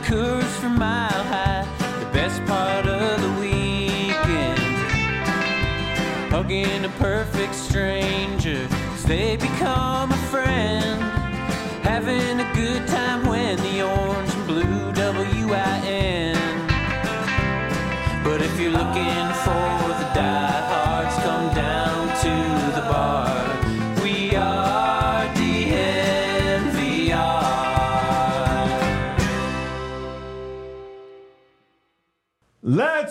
Coors from Mile High, the best part of the weekend. Hugging a perfect stranger as they become a friend. Having a good time when the orange and blue WIN. But if you're looking for the diehards, come down to the bar. We are DNVR. Let's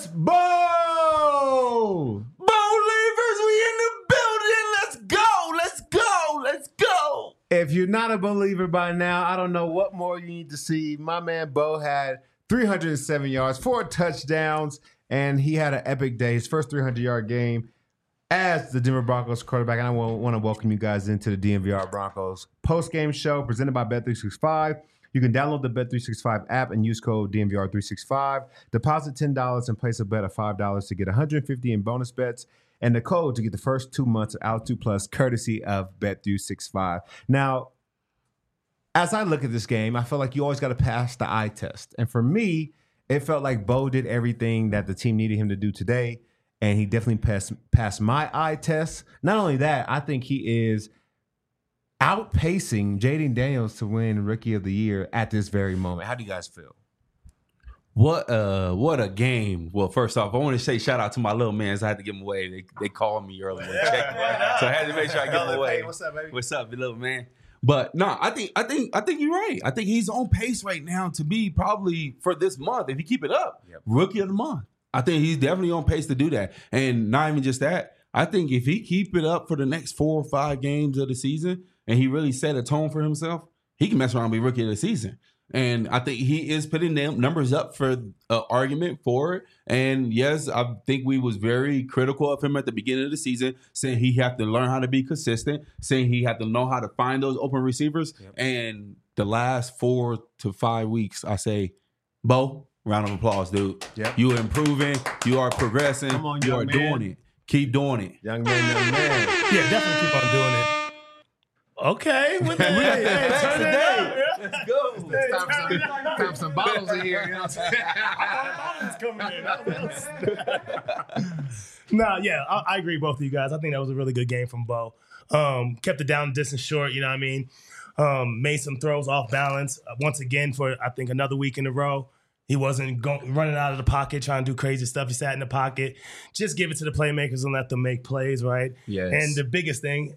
bowl! Bowlivers, we in the building. Let's go. Let's go. Let's go. If you're not a believer by now, I don't know what more you need to see. My man Bo had 307 yards, 4 touchdowns, and he had an epic day. His first 300-yard game as the Denver Broncos quarterback. And I want to welcome you guys into the DNVR Broncos post-game show presented by Bet365. You can download the Bet365 app and use code DNVR365. Deposit $10 and place a bet of $5 to get $150 in bonus bets. And the code to get the first 2 months of Altitude Plus, courtesy of Bet365. Now, as I look at this game, I feel like you always got to pass the eye test. And for me, it felt like Bo did everything that the team needed him to do today. And he definitely passed my eye test. Not only that, I think he is outpacing Jaden Daniels to win Rookie of the Year at this very moment. How do you guys feel? What a game. Well, first off, I want to say shout out to my little mans. I had to give them away. They called me earlier. So I had to make sure I give them away. What's up, baby? What's up, little man? But no, I think you're right. I think he's on pace right now to be probably for this month, if he keep it up, Rookie of the Month. I think he's definitely on pace to do that. And not even just that, I think if he keep it up for the next 4 or 5 games of the season and he really set a tone for himself, he can mess around and be Rookie of the Season. And I think he is putting them numbers up for an argument for it. And yes, I think we was very critical of him at the beginning of the season, saying he had to learn how to be consistent, saying he had to know how to find those open receivers. Yep. And the last 4 to 5 weeks, I say, Bo, round of applause, dude. Yep. You are improving. You are progressing. Come on, you are young man. doing it. Keep doing it. Young man. Yeah, definitely keep on doing it. Okay, with that. Hey, turn it up. Let's go. It's time for some bottles in here. You know what I'm saying? No, yeah, I agree with both of you guys. I think that was a really good game from Bo. Kept it down distance short, you know what I mean? Made some throws off balance. Once again, for I think another week in a row. He wasn't running out of the pocket, trying to do crazy stuff. He sat in the pocket. Just give it to the playmakers and let them make plays, right? Yes. And the biggest thing,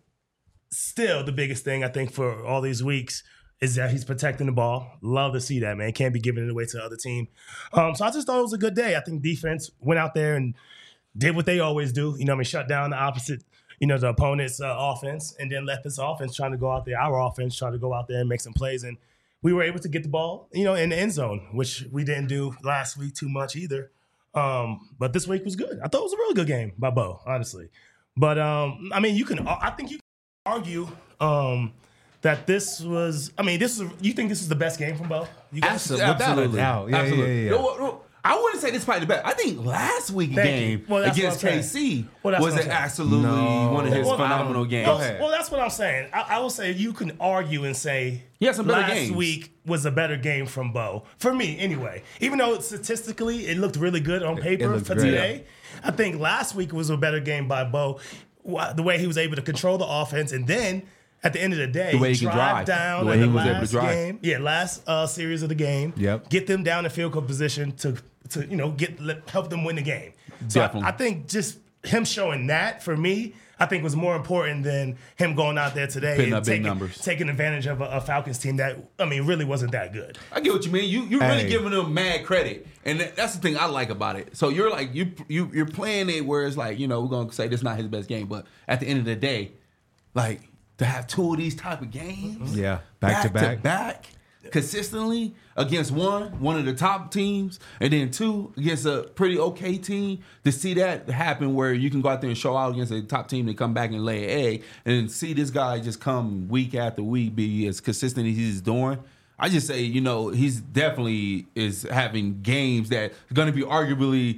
I think, for all these weeks is that he's protecting the ball. Love to see that, man. Can't be giving it away to the other team. So I just thought it was a good day. I think defense went out there and did what they always do. You know what I mean? Shut down the opposite, the opponent's offense, and then let this offense trying to go out there, our offense try to go out there and make some plays. And we were able to get the ball, in the end zone, which we didn't do last week too much either. But this week was good. I thought it was a really good game by Bo, honestly. But, I think you can argue that this was, you think this is the best game from Bo? Absolutely. Yeah. No, I wouldn't say this is probably the best. I think last week's game against KC was absolutely one of his phenomenal games. Well, that's what I'm saying. I will say you can argue and say some better games. Last week was a better game from Bo. For me, anyway. Even though statistically it looked really good on paper for today, I think last week was a better game by Bo. The way he was able to control the offense, and then at the end of the day, the way he drive down the way he was able to drive. Last series of the game. Yep. Get them down in field goal position to help them win the game. So Definitely. I think just him showing that for me, I think was more important than him going out there today Putting and up big numbers. taking advantage of a Falcons team that really wasn't that good. I get what you mean. You're really giving them mad credit, and that's the thing I like about it. So you're like you're playing it where it's like we're gonna say this is not his best game, but at the end of the day, like to have 2 of these type of games, back to back. Consistently against one of the top teams, and then 2 against a pretty okay team, to see that happen where you can go out there and show out against a top team and come back and lay an egg, and see this guy just come week after week be as consistent as he's doing. I just say, he's definitely is having games that are going to be arguably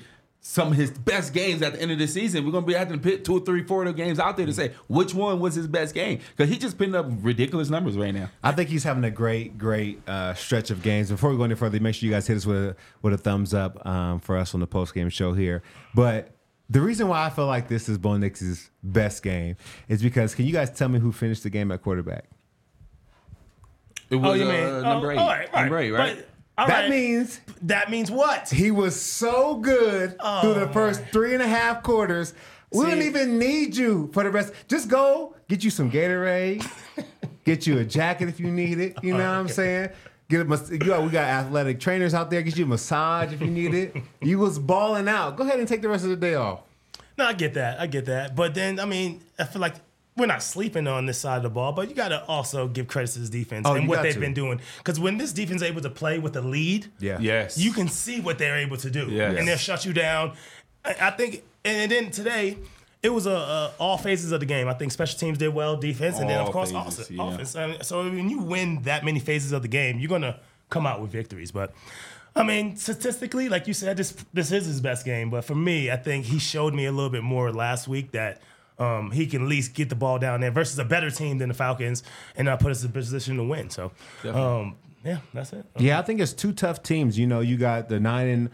some of his best games at the end of the season. We're going to be having to put 2 or 3, 4 of the games out there to say which one was his best game, because he's just putting up ridiculous numbers right now. I think he's having a great stretch of games. Before we go any further, make sure you guys hit us with a thumbs up for us on the post-game show here. But the reason why I feel like this is Bo Nix's best game is because, can you guys tell me who finished the game at quarterback? It was you mean number 8. All right. Number 8, right? But, all That right. That means what? He was so good through the first 3.5 quarters. We don't even need you for the rest. Just go get you some Gatorade, get you a jacket if you need it. You know what I'm saying? We got athletic trainers out there. Get you a massage if you need it. You was balling out. Go ahead and take the rest of the day off. No, I get that. But then, I mean, I feel like we're not sleeping on this side of the ball, but you got to also give credit to this defense and what they've been doing. Because when this defense is able to play with a lead, you can see what they're able to do. Yes. And they'll shut you down. I think, and then today, it was all phases of the game. I think special teams did well, defense, and then, of course, offense. I mean, so when you win that many phases of the game, you're going to come out with victories. But, I mean, statistically, like you said, this is his best game. But for me, I think he showed me a little bit more last week that he can at least get the ball down there versus a better team than the Falcons and put us in a position to win. So, yeah, that's it. Yeah, I think it's 2 tough teams. You know, you got the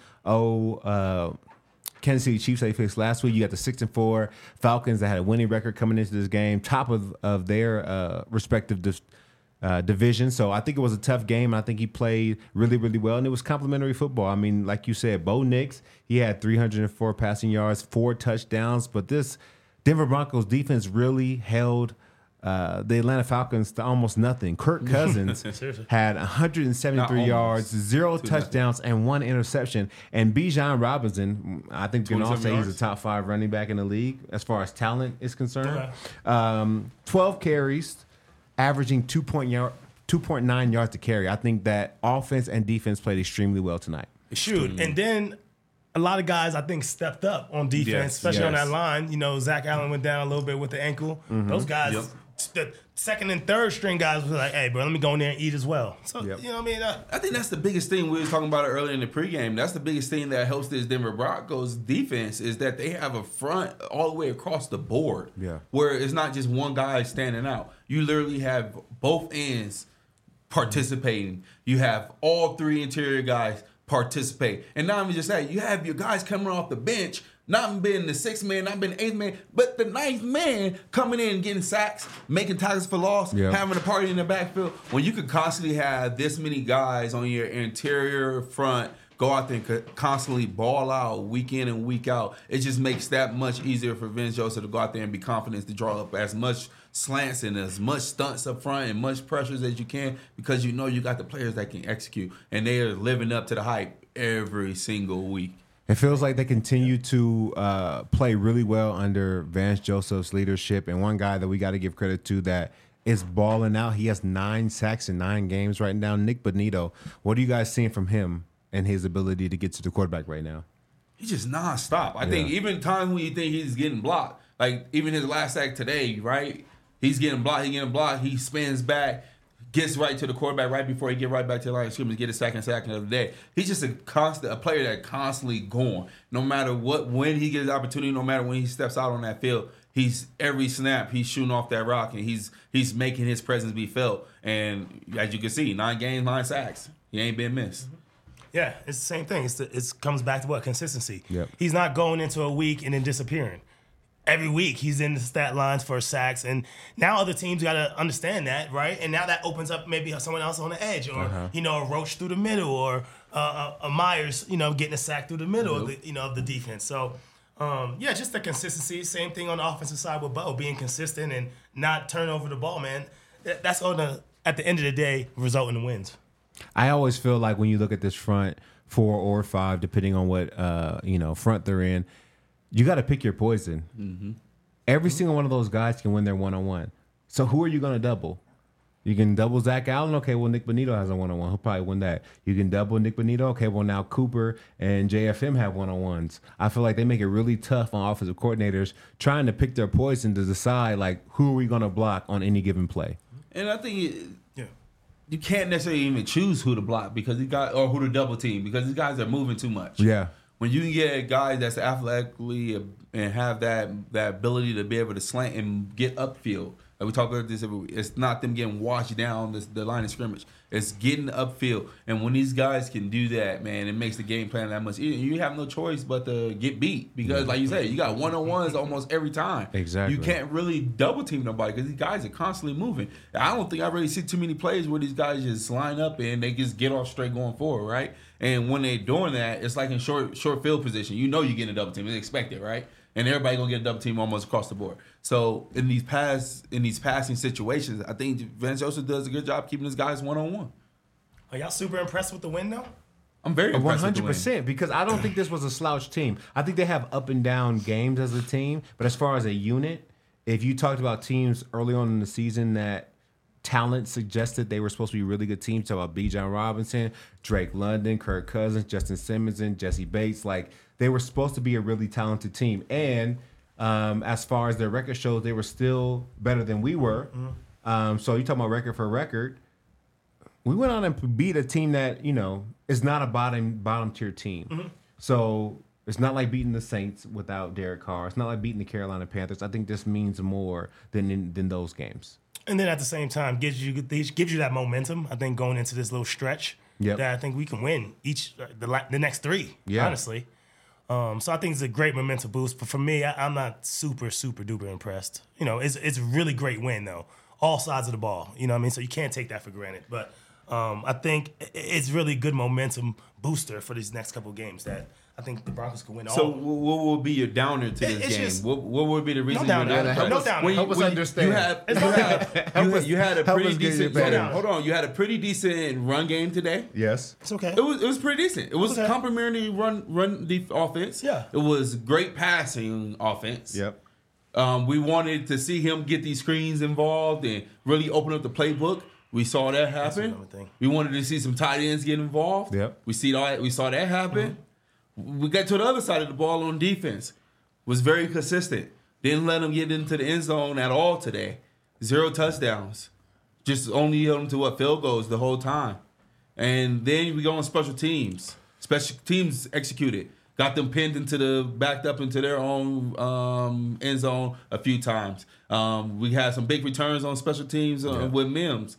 9-0 Kansas City Chiefs they faced last week. You got the 6-4 Falcons that had a winning record coming into this game, top of their respective division. So I think it was a tough game. I think he played really, really well, and it was complimentary football. I mean, like you said, Bo Nix, he had 304 passing yards, 4 touchdowns, but this Denver Broncos defense really held the Atlanta Falcons to almost nothing. Kirk Cousins had 173 yards, 0 touchdowns, and 1 interception. And Bijan Robinson, I think we can all say he's a top 5 running back in the league as far as talent is concerned. 12 carries, averaging 2.9 yards to carry. I think that offense and defense played extremely well tonight. Shoot, and then a lot of guys, I think, stepped up on defense, especially on that line. You know, Zach Allen went down a little bit with the ankle. Those guys, the second and third string guys were like, hey, bro, let me go in there and eat as well. So, you know what I mean? I think that's the biggest thing. We were talking about it earlier in the pregame. That's the biggest thing that helps this Denver Broncos defense is that they have a front all the way across the board where it's not just one guy standing out. You literally have both ends participating. You have all 3 interior guys participate. And not even just that, you have your guys coming off the bench, not being the 6th man, not being the 8th man, but the 9th man coming in and getting sacks, making tackles for loss, having a party in the backfield. When you could constantly have this many guys on your interior front go out there and constantly ball out week in and week out, it just makes that much easier for Vince Joseph to go out there and be confident to draw up as much slants and as much stunts up front and much pressures as you can, because you know you got the players that can execute, and they are living up to the hype every single week. It feels like they continue to play really well under Vance Joseph's leadership. And one guy that we got to give credit to that is balling out. He has 9 sacks in 9 games right now. Nick Bonitto. What are you guys seeing from him and his ability to get to the quarterback right now? He's just nonstop. I think even times when you think he's getting blocked, like even his last sack today, right? He's getting blocked. He spins back, gets right to the quarterback right before he get right back to the line of scrimmage, get a second sack of the day. He's just a player that constantly going. No matter when he gets the opportunity, no matter when he steps out on that field, he's every snap he's shooting off that rock, and he's making his presence be felt. And as you can see, 9 games, 9 sacks. He ain't been missed. Yeah, it's the same thing. It comes back to consistency. Yep. He's not going into a week and then disappearing. Every week he's in the stat lines for sacks, and now other teams got to understand that, right? And now that opens up maybe someone else on the edge, or a Roach through the middle, or a Myers, getting a sack through the middle of the defense. So, just the consistency. Same thing on the offensive side with Bo, being consistent and not turn over the ball, man. That's at the end of the day result in the wins. I always feel like when you look at this front 4 or 5, depending on what front they're in, you got to pick your poison. Mm-hmm. Every single one of those guys can win their one-on-one. So who are you going to double? You can double Zach Allen. Okay, well, Nick Bonitto has a one-on-one. He'll probably win that. You can double Nick Bonitto. Okay, well, now Cooper and JFM have one-on-ones. I feel like they make it really tough on offensive coordinators trying to pick their poison to decide, like, who are we going to block on any given play. And I think you can't necessarily even choose who to block or who to double team, because these guys are moving too much. Yeah. when you can get a guy that's athletically and have that ability to be able to slant and get upfield. Like we talk about this every week. It's not them getting washed down the line of scrimmage. It's getting upfield. And when these guys can do that, man, it makes the game plan that much easier. You have no choice but to get beat because, like you said, you got one-on-ones almost every time. Exactly. You can't really double team nobody because these guys are constantly moving. I don't think I really see too many plays where these guys just line up and they just get off straight going forward, right? And when they're doing that, it's like in short field position. You know you're getting a double team. It's expected, right? And everybody gonna get a double team almost across the board. So in these passing situations, I think Vance Joseph does a good job keeping his guys one-on-one. Are y'all super impressed with the win though? I'm very impressed 100%, because I don't think this was a slouch team. I think they have up and down games as a team, but as far as a unit, if you talked about teams early on in the season that talent suggested they were supposed to be really good teams, talk about Bijan Robinson, Drake London, Kirk Cousins, Justin Simmons, and Jesse Bates, like they were supposed to be a really talented team. And as far as their record shows, they were still better than we were. So you talking about record for record. We went on and beat a team that, is not a bottom tier team. So it's not like beating the Saints without Derek Carr. It's not like beating the Carolina Panthers. I think this means more than those games. And then at the same time, gives you that momentum. I think going into this little stretch, that I think we can win the next three. Honestly, so I think it's a great momentum boost. But for me, I'm not super duper impressed. It's a really great win though, all sides of the ball. You know what I mean? So you can't take that for granted. But I think it's really good momentum booster for these next couple of games that I think the Broncos can win all. So what will be your downer to this game? What would be the reason you're downer. not? Help us understand. You had a pretty decent. Hold on. You had a pretty decent run game today. Yes. It's okay. It was pretty decent. It was complimentary run the offense. Yeah. It was great passing offense. Yep. We wanted to see him get these screens involved and really open up the playbook. We saw that happen. We wanted to see some tight ends get involved. Yep. We saw that happen. We got to the other side of the ball on defense. Was very consistent. Didn't let them get into the end zone at all today. 0 touchdowns. Just only held them to field goals the whole time. And then we go on special teams. Special teams executed. Got them backed up into their own end zone a few times. We had some big returns on special teams with Mims.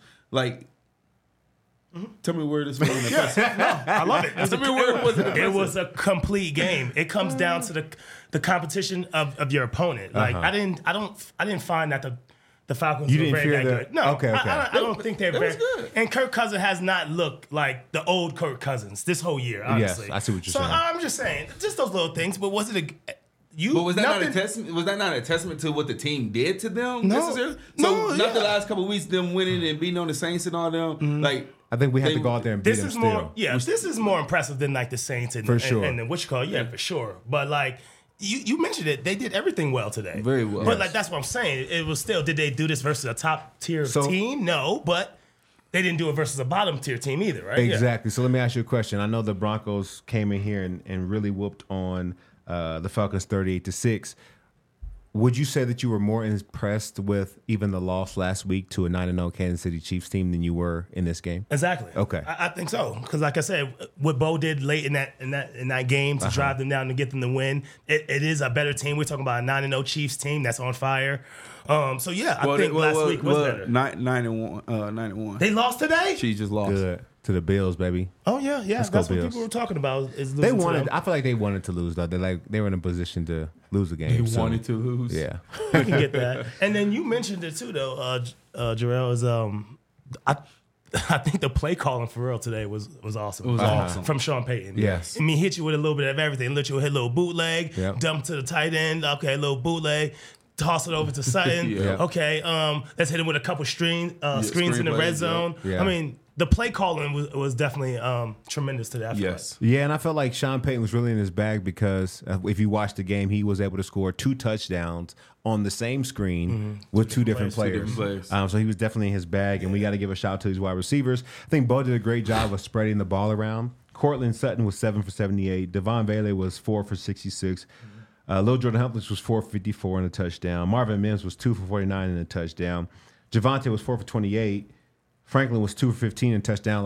Tell me where this was. I love it. Tell me where it was. It was a complete game. It comes down to the competition of your opponent. I didn't find that the Falcons were very good. No, okay. I don't think they're very good. And Kirk Cousins has not looked like the old Kirk Cousins this whole year, honestly. Yes, I see what you're saying. saying. I'm just saying, just those little things. But was it But was that not a testament? Was that not a testament to what the team did to them? No. Necessarily? So the last couple of weeks, them winning and beating on the Saints and all them, I think we have to go out there and beat them still. This is more impressive than the Saints and for sure. And what you call for sure. But you mentioned it, they did everything well today. Very well. But that's what I'm saying. It was still, did they do this versus a top tier team? No, but they didn't do it versus a bottom tier team either, right? Exactly. So let me ask you a question. I know the Broncos came in here and really whooped on the Falcons 38-6. Would you say that you were more impressed with even the loss last week to a 9-0 Kansas City Chiefs team than you were in this game? Exactly. Okay. I think so, because like I said, what Bo did late in that game to drive them down to get them to win, it is a better team. We're talking about a 9-0 Chiefs team that's on fire. I think last week was better. 9-1. They lost today? She just lost. Good. To the Bills, baby. Oh yeah. Let's That's go what Bills. people were talking about. Is They losing wanted. to them. I feel like they wanted to lose though. They were in a position to lose the game. They wanted to lose. Yeah. We can get that. And then you mentioned it too, though, Jarrell, is I think the play calling for real today was awesome. It was awesome. From Sean Payton. Yes. I mean, hit you with a little bit of everything. Let you hit a little bootleg, Yep. dump to the tight end. Okay, a little bootleg. Toss it over to Sutton. Yeah. Okay, let's hit him with a couple screens in the screen red plays, zone. yeah. I mean, the play calling was definitely tremendous today. I feel Yes. Yeah, and I felt like Sean Payton was really in his bag because if you watch the game, he was able to score 2 touchdowns on the same screen with two different players. So he was definitely in his bag, and we got to give a shout out to these wide receivers. I think Bo did a great job of spreading the ball around. Cortland Sutton was 7 for 78. Devon Bailey was 4 for 66. Lil Jordan Humphries was 4 for 54 and a touchdown. Marvin Mims was 2 for 49 and a touchdown. Javonte was 4 for 28. Franklin was 2 for 15 and a touchdown. Like,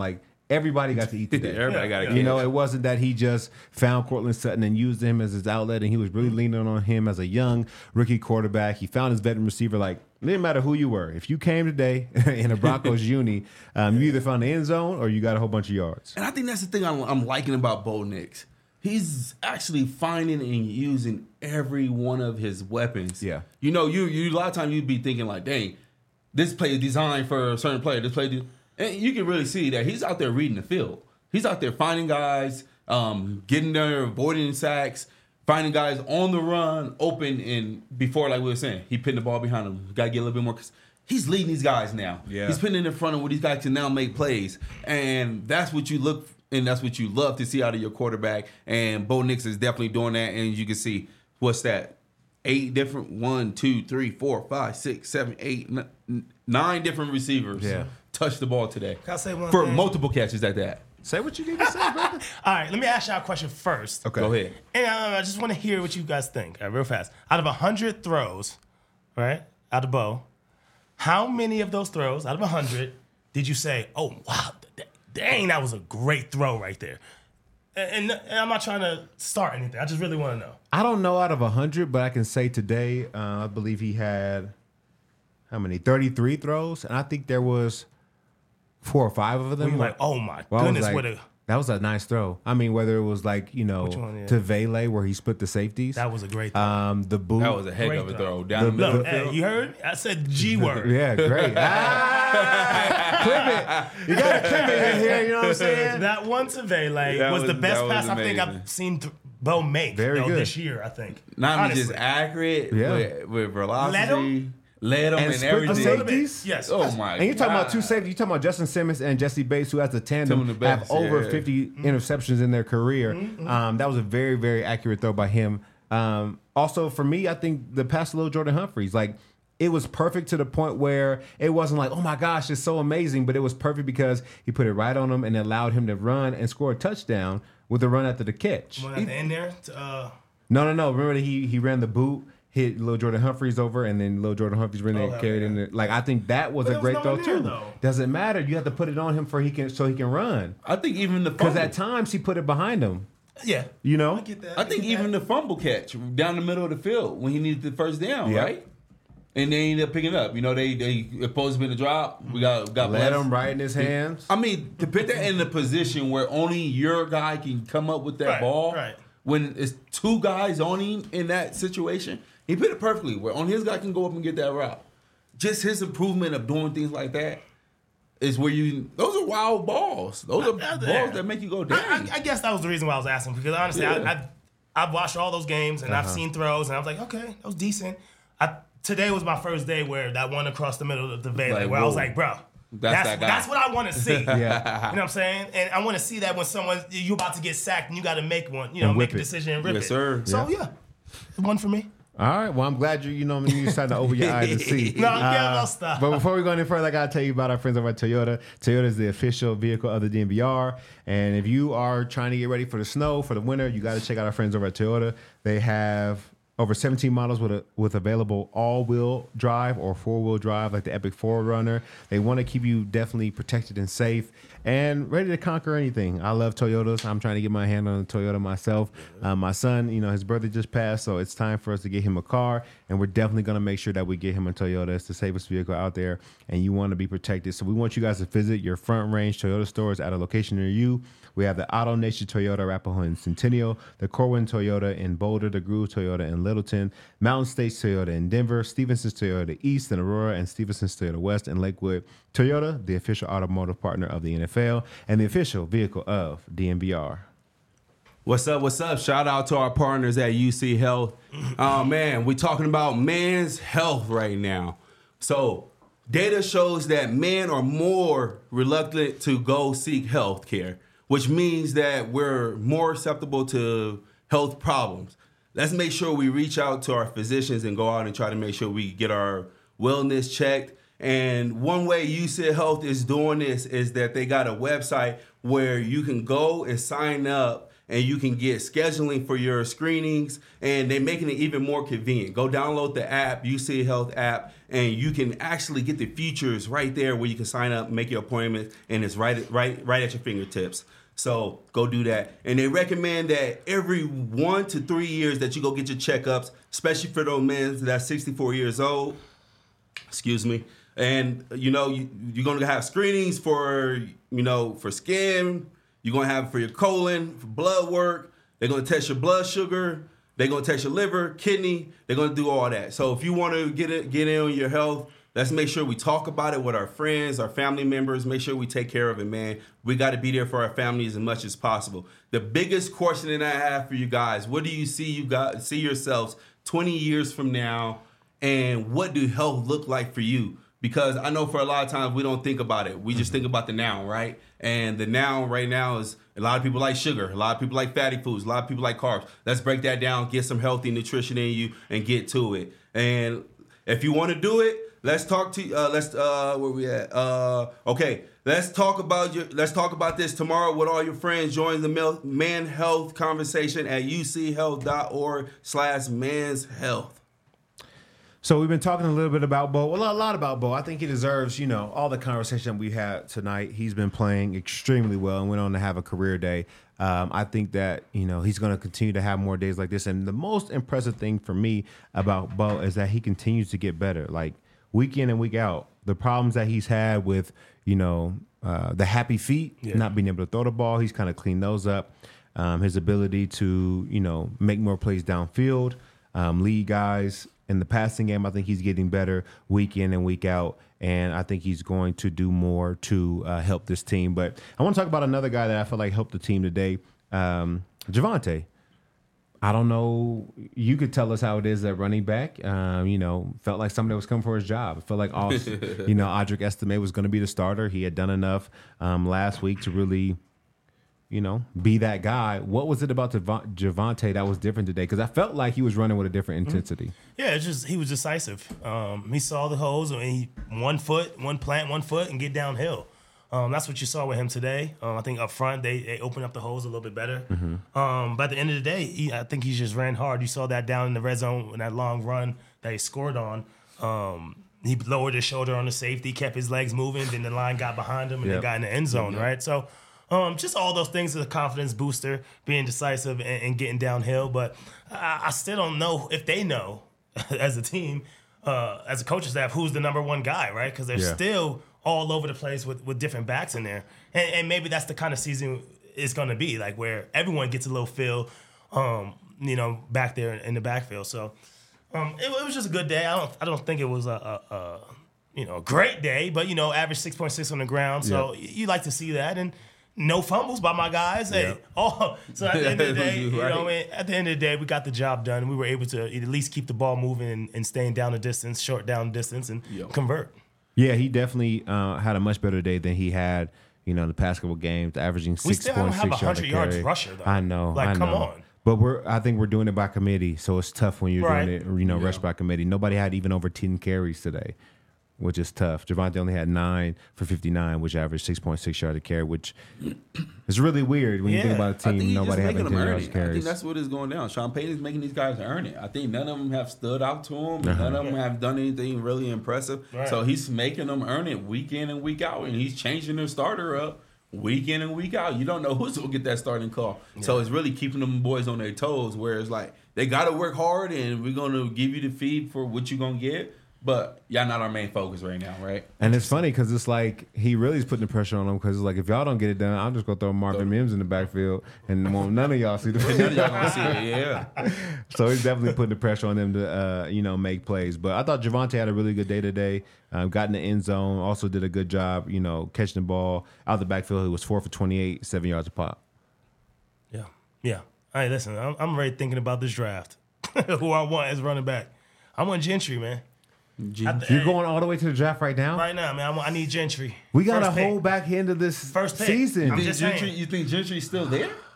everybody got to eat today. Everybody got to You know, it wasn't that he just found Cortland Sutton and used him as his outlet, and he was really leaning on him as a young rookie quarterback. He found his veteran receiver. Like, it didn't matter who you were. If you came today in a Broncos uni, you either found the end zone or you got a whole bunch of yards. And I think that's the thing I'm liking about Bo Nix. He's actually finding and using every one of his weapons. Yeah. You know, you a lot of times you'd be thinking like, dang, this play is designed for a certain player. And you can really see that he's out there reading the field. He's out there finding guys, getting there, avoiding sacks, finding guys on the run, open, and before, like we were saying, he putting the ball behind him. Got to get a little bit more. He's leading these guys now. Yeah. He's putting it in front of where these guys can now make plays. And that's what you look and that's what you love to see out of your quarterback. And Bo Nix is definitely doing that. And you can see, what's that? 8 different, 1, 2, 3, 4, 5, 6, 7, 8, 9 different receivers touch the ball today. Can I say one For thing? multiple catches at that. Say what you need to say, brother. All right, let me ask y'all a question first. Okay. Go ahead. And I just want to hear what you guys think, real fast. Out of 100 throws, right, out of Bo, how many of those throws, out of 100, did you say, oh, wow, dang, that was a great throw right there? And I'm not trying to start anything. I just really want to know. I don't know out of 100, but I can say today, I believe he had, how many? 33 throws. And I think there was 4 or 5 of them. You're like, oh, my Well, I was goodness, like, what a... that was a nice throw. I mean, whether it was like, you know, Which one, yeah? to Vele where he split the safeties. That was a great throw. The boot. That was a heck Great of a throw. throw. Down the middle of Look, the hey, field. you heard? I said G word. Yeah, great. Clip it. You got to clip it in here, you know what I'm saying? That one to Vele That was the was- best that was pass I think amazing. I've seen Bo make Very good. this year, I think. Not only just Honestly. accurate, Yeah. with velocity. Let him? And And split the everything. safeties? Yes. Oh, my And you're talking about God. 2 safeties. You're talking about Justin Simmons and Jesse Bates, who as a tandem Two of the have best, over yeah. 50 interceptions in their career. That was a very, very accurate throw by him. Also, for me, I think the pass to Lil Jordan Humphreys, like, it was perfect to the point where it wasn't like, oh my gosh, it's so amazing, but it was perfect because he put it right on him and allowed him to run and score a touchdown with a run after the catch. One at the end there. No. Remember that he ran the boot, hit Lil Jordan Humphreys over, and then Lil Jordan Humphreys ran and carried in. Like, I think that was But a there was great no throw one there, too. though. Doesn't matter. You have to put it on him so he can run. I think even the Because fumble. at times he put it behind him. Yeah. You know. I get that. I think get even that. the fumble catch down the middle of the field when he needed the first down, Yeah. right? And they ended up picking it up. You know, they supposed to be in the drop. We got Let blessed. him right in his hands. I mean, to put that in a position where only your guy can come up with that Right, ball, right. when it's 2 guys on him in that situation, he put it perfectly where only his guy can go up and get that route. Just his improvement of doing things like that is where those are wild balls. Those are balls that make you go, dang. I guess that was the reason why I was asking, because honestly, Yeah. I've watched all those games and I've seen throws, and I was like, okay, that was decent. Today was my first day where that one across the middle of the Vele, Like, where I was whoa. like, bro, That's that guy. that's what I want to see. Yeah. You know what I'm saying? And I want to see that when you're about to get sacked and you got to make one, And make whip a it. decision and rip Yes, it. sir. So yeah, one for me. All right. Well, I'm glad you starting to open your eyes and see. No, yeah, no, stop. But before we go any further, I gotta tell you about our friends over at Toyota. Toyota is the official vehicle of the DNVR. And if you are trying to get ready for the snow, for the winter, you got to check out our friends over at Toyota. They have over 17 models with available all-wheel drive or four-wheel drive, like the Epic 4Runner. They want to keep you definitely protected and safe and ready to conquer anything. I love Toyotas. I'm trying to get my hand on a Toyota myself. My son, his birthday just passed, so it's time for us to get him a car, and we're definitely going to make sure that we get him a Toyota. It's the safest vehicle out there, and you want to be protected. So we want you guys to visit your Front Range Toyota stores at a location near you. We have the Auto Nation Toyota Arapahoe in Centennial, the Corwin Toyota in Boulder, the Groove Toyota in Littleton, Mountain States Toyota in Denver, Stevenson's Toyota East in Aurora, and Stevenson's Toyota West in Lakewood. Toyota, the official automotive partner of the NFL and the official vehicle of DNVR. What's up? What's up? Shout out to our partners at UC Health. Man, we're talking about men's health right now. So data shows that men are more reluctant to go seek health care, which means that we're more susceptible to health problems. Let's make sure we reach out to our physicians and go out and try to make sure we get our wellness checked. And one way UC Health is doing this is that they got a website where you can go and sign up and you can get scheduling for your screenings, and they're making it even more convenient. Go download the app, UC Health app, and you can actually get the features right there where you can sign up, make your appointment, and it's right at your fingertips. So go do that. And they recommend that every 1 to 3 years that you go get your checkups, especially for those men that's 64 years old. Excuse me. And, you're going to have screenings for skin. You're going to have for your colon, for blood work. They're going to test your blood sugar. They're going to test your liver, kidney. They're going to do all that. So if you want to get in on your health, let's make sure we talk about it with our friends, our family members. Make sure we take care of it, man. We got to be there for our families as much as possible. The biggest question that I have for you guys, what do you see yourselves 20 years from now, and what do health look like for you? Because I know for a lot of times we don't think about it. We just think about the now, right? And the now right now is a lot of people like sugar. A lot of people like fatty foods. A lot of people like carbs. Let's break that down, get some healthy nutrition in you, and get to it. And if you want to do it, let's talk to where we at? Okay, let's talk about this tomorrow with all your friends. Join the Man Health conversation at uchealth.org/manshealth. So we've been talking a little bit about Bo, a lot about Bo. I think he deserves, all the conversation we had tonight. He's been playing extremely well and went on to have a career day. I think that, he's going to continue to have more days like this. And the most impressive thing for me about Bo is that he continues to get better, like week in and week out. The problems that he's had with, the happy feet, not being able to throw the ball, he's kind of cleaned those up. His ability to, make more plays downfield, lead guys. In the passing game, I think he's getting better week in and week out, and I think he's going to do more to help this team. But I want to talk about another guy that I feel like helped the team today, Javonte. I don't know. You could tell us how it is at running back. Felt like somebody was coming for his job. It felt like, Audric Estime was going to be the starter. He had done enough last week to really be that guy. What was it about Javonte that was different today? Because I felt like he was running with a different intensity. Yeah, he was decisive. He saw the holes, and he one foot, and get downhill. That's what you saw with him today. I think up front they opened up the holes a little bit better. But at the end of the day, I think he just ran hard. You saw that down in the red zone in that long run that he scored on. He lowered his shoulder on the safety, kept his legs moving, then the line got behind him, and they got in the end zone, right? So just all those things is a confidence booster, being decisive and getting downhill. But I still don't know if they know as a team, as a coaching staff, who's the number one guy, right? Because they're still all over the place with different backs in there. And maybe that's the kind of season it's going to be, like where everyone gets a little feel, back there in the backfield. So it was just a good day. I don't think it was a great day, but, average 6.6 on the ground. So you like to see that. And no fumbles by my guys. So at the end of the day, at the end of the day, we got the job done. We were able to at least keep the ball moving and staying down the distance, short down distance, and convert. Yeah, he definitely had a much better day than he had, the past couple games, averaging 6.6 yards. We still don't have a 100-yard rusher, though. I know. Come on. But I think we're doing it by committee, so it's tough when you're doing it, rush by committee. Nobody had even over 10 carries today, which is tough. Javonte only had 9 for 59, which averaged 6.6 yards a carry, which is really weird when you think about a team. Nobody having 10 yards carries. I think that's what is going down. Sean Payton's making these guys earn it. I think none of them have stood out to him. None of them have done anything really impressive. Right. So he's making them earn it week in and week out, and he's changing their starter up week in and week out. You don't know who's going to get that starting call. Yeah. So it's really keeping them boys on their toes, where it's like they got to work hard, and we're going to give you the feed for what you're going to get. But y'all not our main focus right now, right? And it's funny because it's like he really is putting the pressure on them, because it's like, if y'all don't get it done, I'm just going to throw Marvin Mims in the backfield and none of y'all see the None of y'all going to see it, yeah. So he's definitely putting the pressure on them to, make plays. But I thought Javonte had a really good day today. Got in the end zone, also did a good job, catching the ball out of the backfield. He was 4 for 28, 7 yards a pop. Yeah. All right, listen, I'm already thinking about this draft. Who I want as running back. I want Gentry, man. You're going all the way to the draft right now? Right now, man. I need Gentry. We got to hold back into this first pick. season. You think Gentry's still there?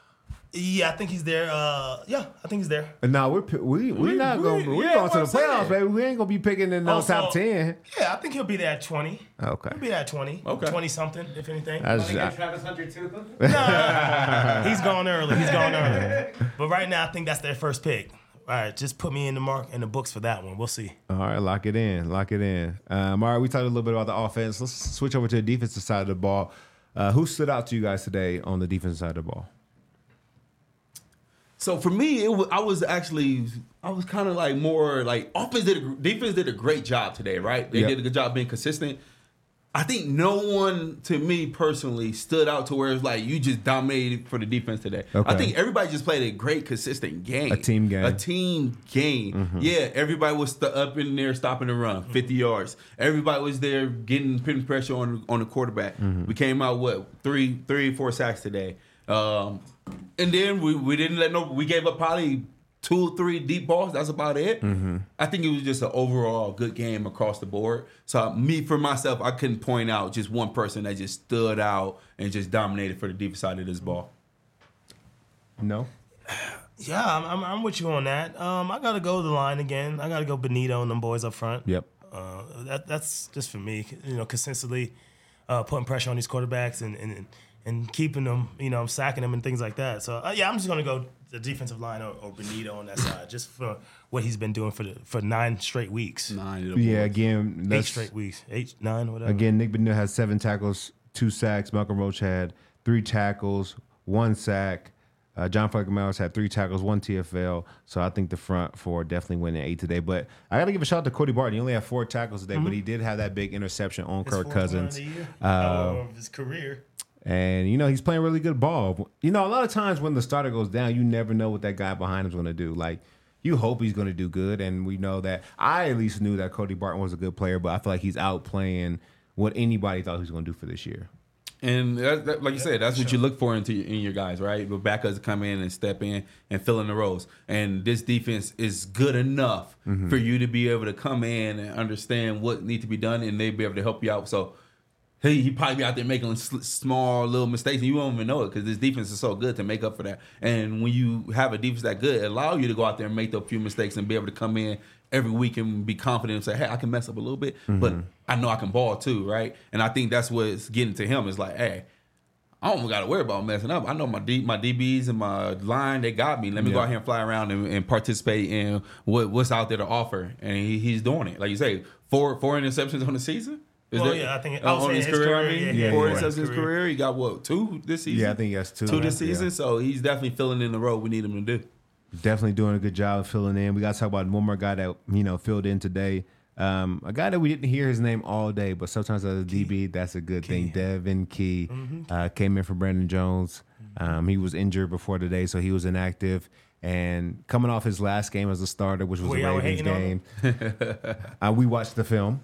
Yeah, I think he's there. Yeah, I think he's there. No, we're not going to the playoffs, baby. We ain't going to be picking in no top 10. Yeah, I think he'll be there at 20. Okay. He'll be there at 20. Okay. 20-something, if anything. Travis Hunter too. Nah, he's gone early. But right now, I think that's their first pick. All right, just put me in the books for that one. We'll see. All right, lock it in. All right, we talked a little bit about the offense. Let's switch over to the defensive side of the ball. Who stood out to you guys today on the defensive side of the ball? So for me, I was kind of like more like defense did a great job today, right? They did a good job being consistent. I think no one, to me personally, stood out to where it's like you just dominated for the defense today. Okay. I think everybody just played a great, consistent game. A team game. Mm-hmm. Yeah, everybody was up in there stopping the run, 50 yards. Everybody was there putting pressure on the quarterback. Mm-hmm. We came out, 3-4 sacks today. And then we didn't we gave up probably 2 or 3 deep balls. That's about it. Mm-hmm. I think it was just an overall good game across the board. So for myself, I couldn't point out just one person that just stood out and just dominated for the deep side of this ball. No? Yeah, I'm with you on that. I got to go to the line again. I got to go Benito and them boys up front. Yep. That's just for me. consistently putting pressure on these quarterbacks and keeping them, sacking them and things like that. So, I'm just going to go the defensive line or Benito on that side, just for what he's been doing for 9 straight weeks. 9. Yeah, again. 8 straight weeks. 8, 9, whatever. Again, Nick Benito has 7 tackles, 2 sacks. Malcolm Roach had 3 tackles, 1 sack. John Franklin Myers had 3 tackles, 1 TFL. So I think the front 4 definitely winning 8 today. But I got to give a shout out to Cody Barton. He only had 4 tackles today, but he did have that big interception on Kirk Cousins. Of his career. And, he's playing really good ball. A lot of times when the starter goes down, you never know what that guy behind him is going to do. Like, you hope he's going to do good. And we know that. I at least knew that Cody Barton was a good player, but I feel like he's outplaying what anybody thought he was going to do for this year. And like you said, that's what you look for in your guys, right? The backups come in and step in and fill in the roles. And this defense is good enough for you to be able to come in and understand what needs to be done, and they be able to help you out. So he probably be out there making small little mistakes, and you won't even know it because this defense is so good to make up for that. And when you have a defense that good, it allows you to go out there and make those few mistakes and be able to come in every week and be confident and say, hey, I can mess up a little bit, but I know I can ball too, right? And I think that's what's getting to him is like, hey, I don't got to worry about messing up. I know my DBs and my line, they got me. Let me go out here and fly around and participate in what's out there to offer. And he's doing it. Like you say, 4 interceptions on the season? I think on his career. I mean, 4 interceptions in his career. career. He got 2 this season? Yeah, I think he has 2. 2 this season. Yeah. So he's definitely filling in the role we need him to do. Definitely doing a good job of filling in. We got to talk about one more guy that filled in today. A guy that we didn't hear his name all day, but sometimes as a DB, that's a good thing. Devin Key came in for Brandon Jones. He was injured before today, so he was inactive. And coming off his last game as a starter, which was the Ravens game, we watched the film.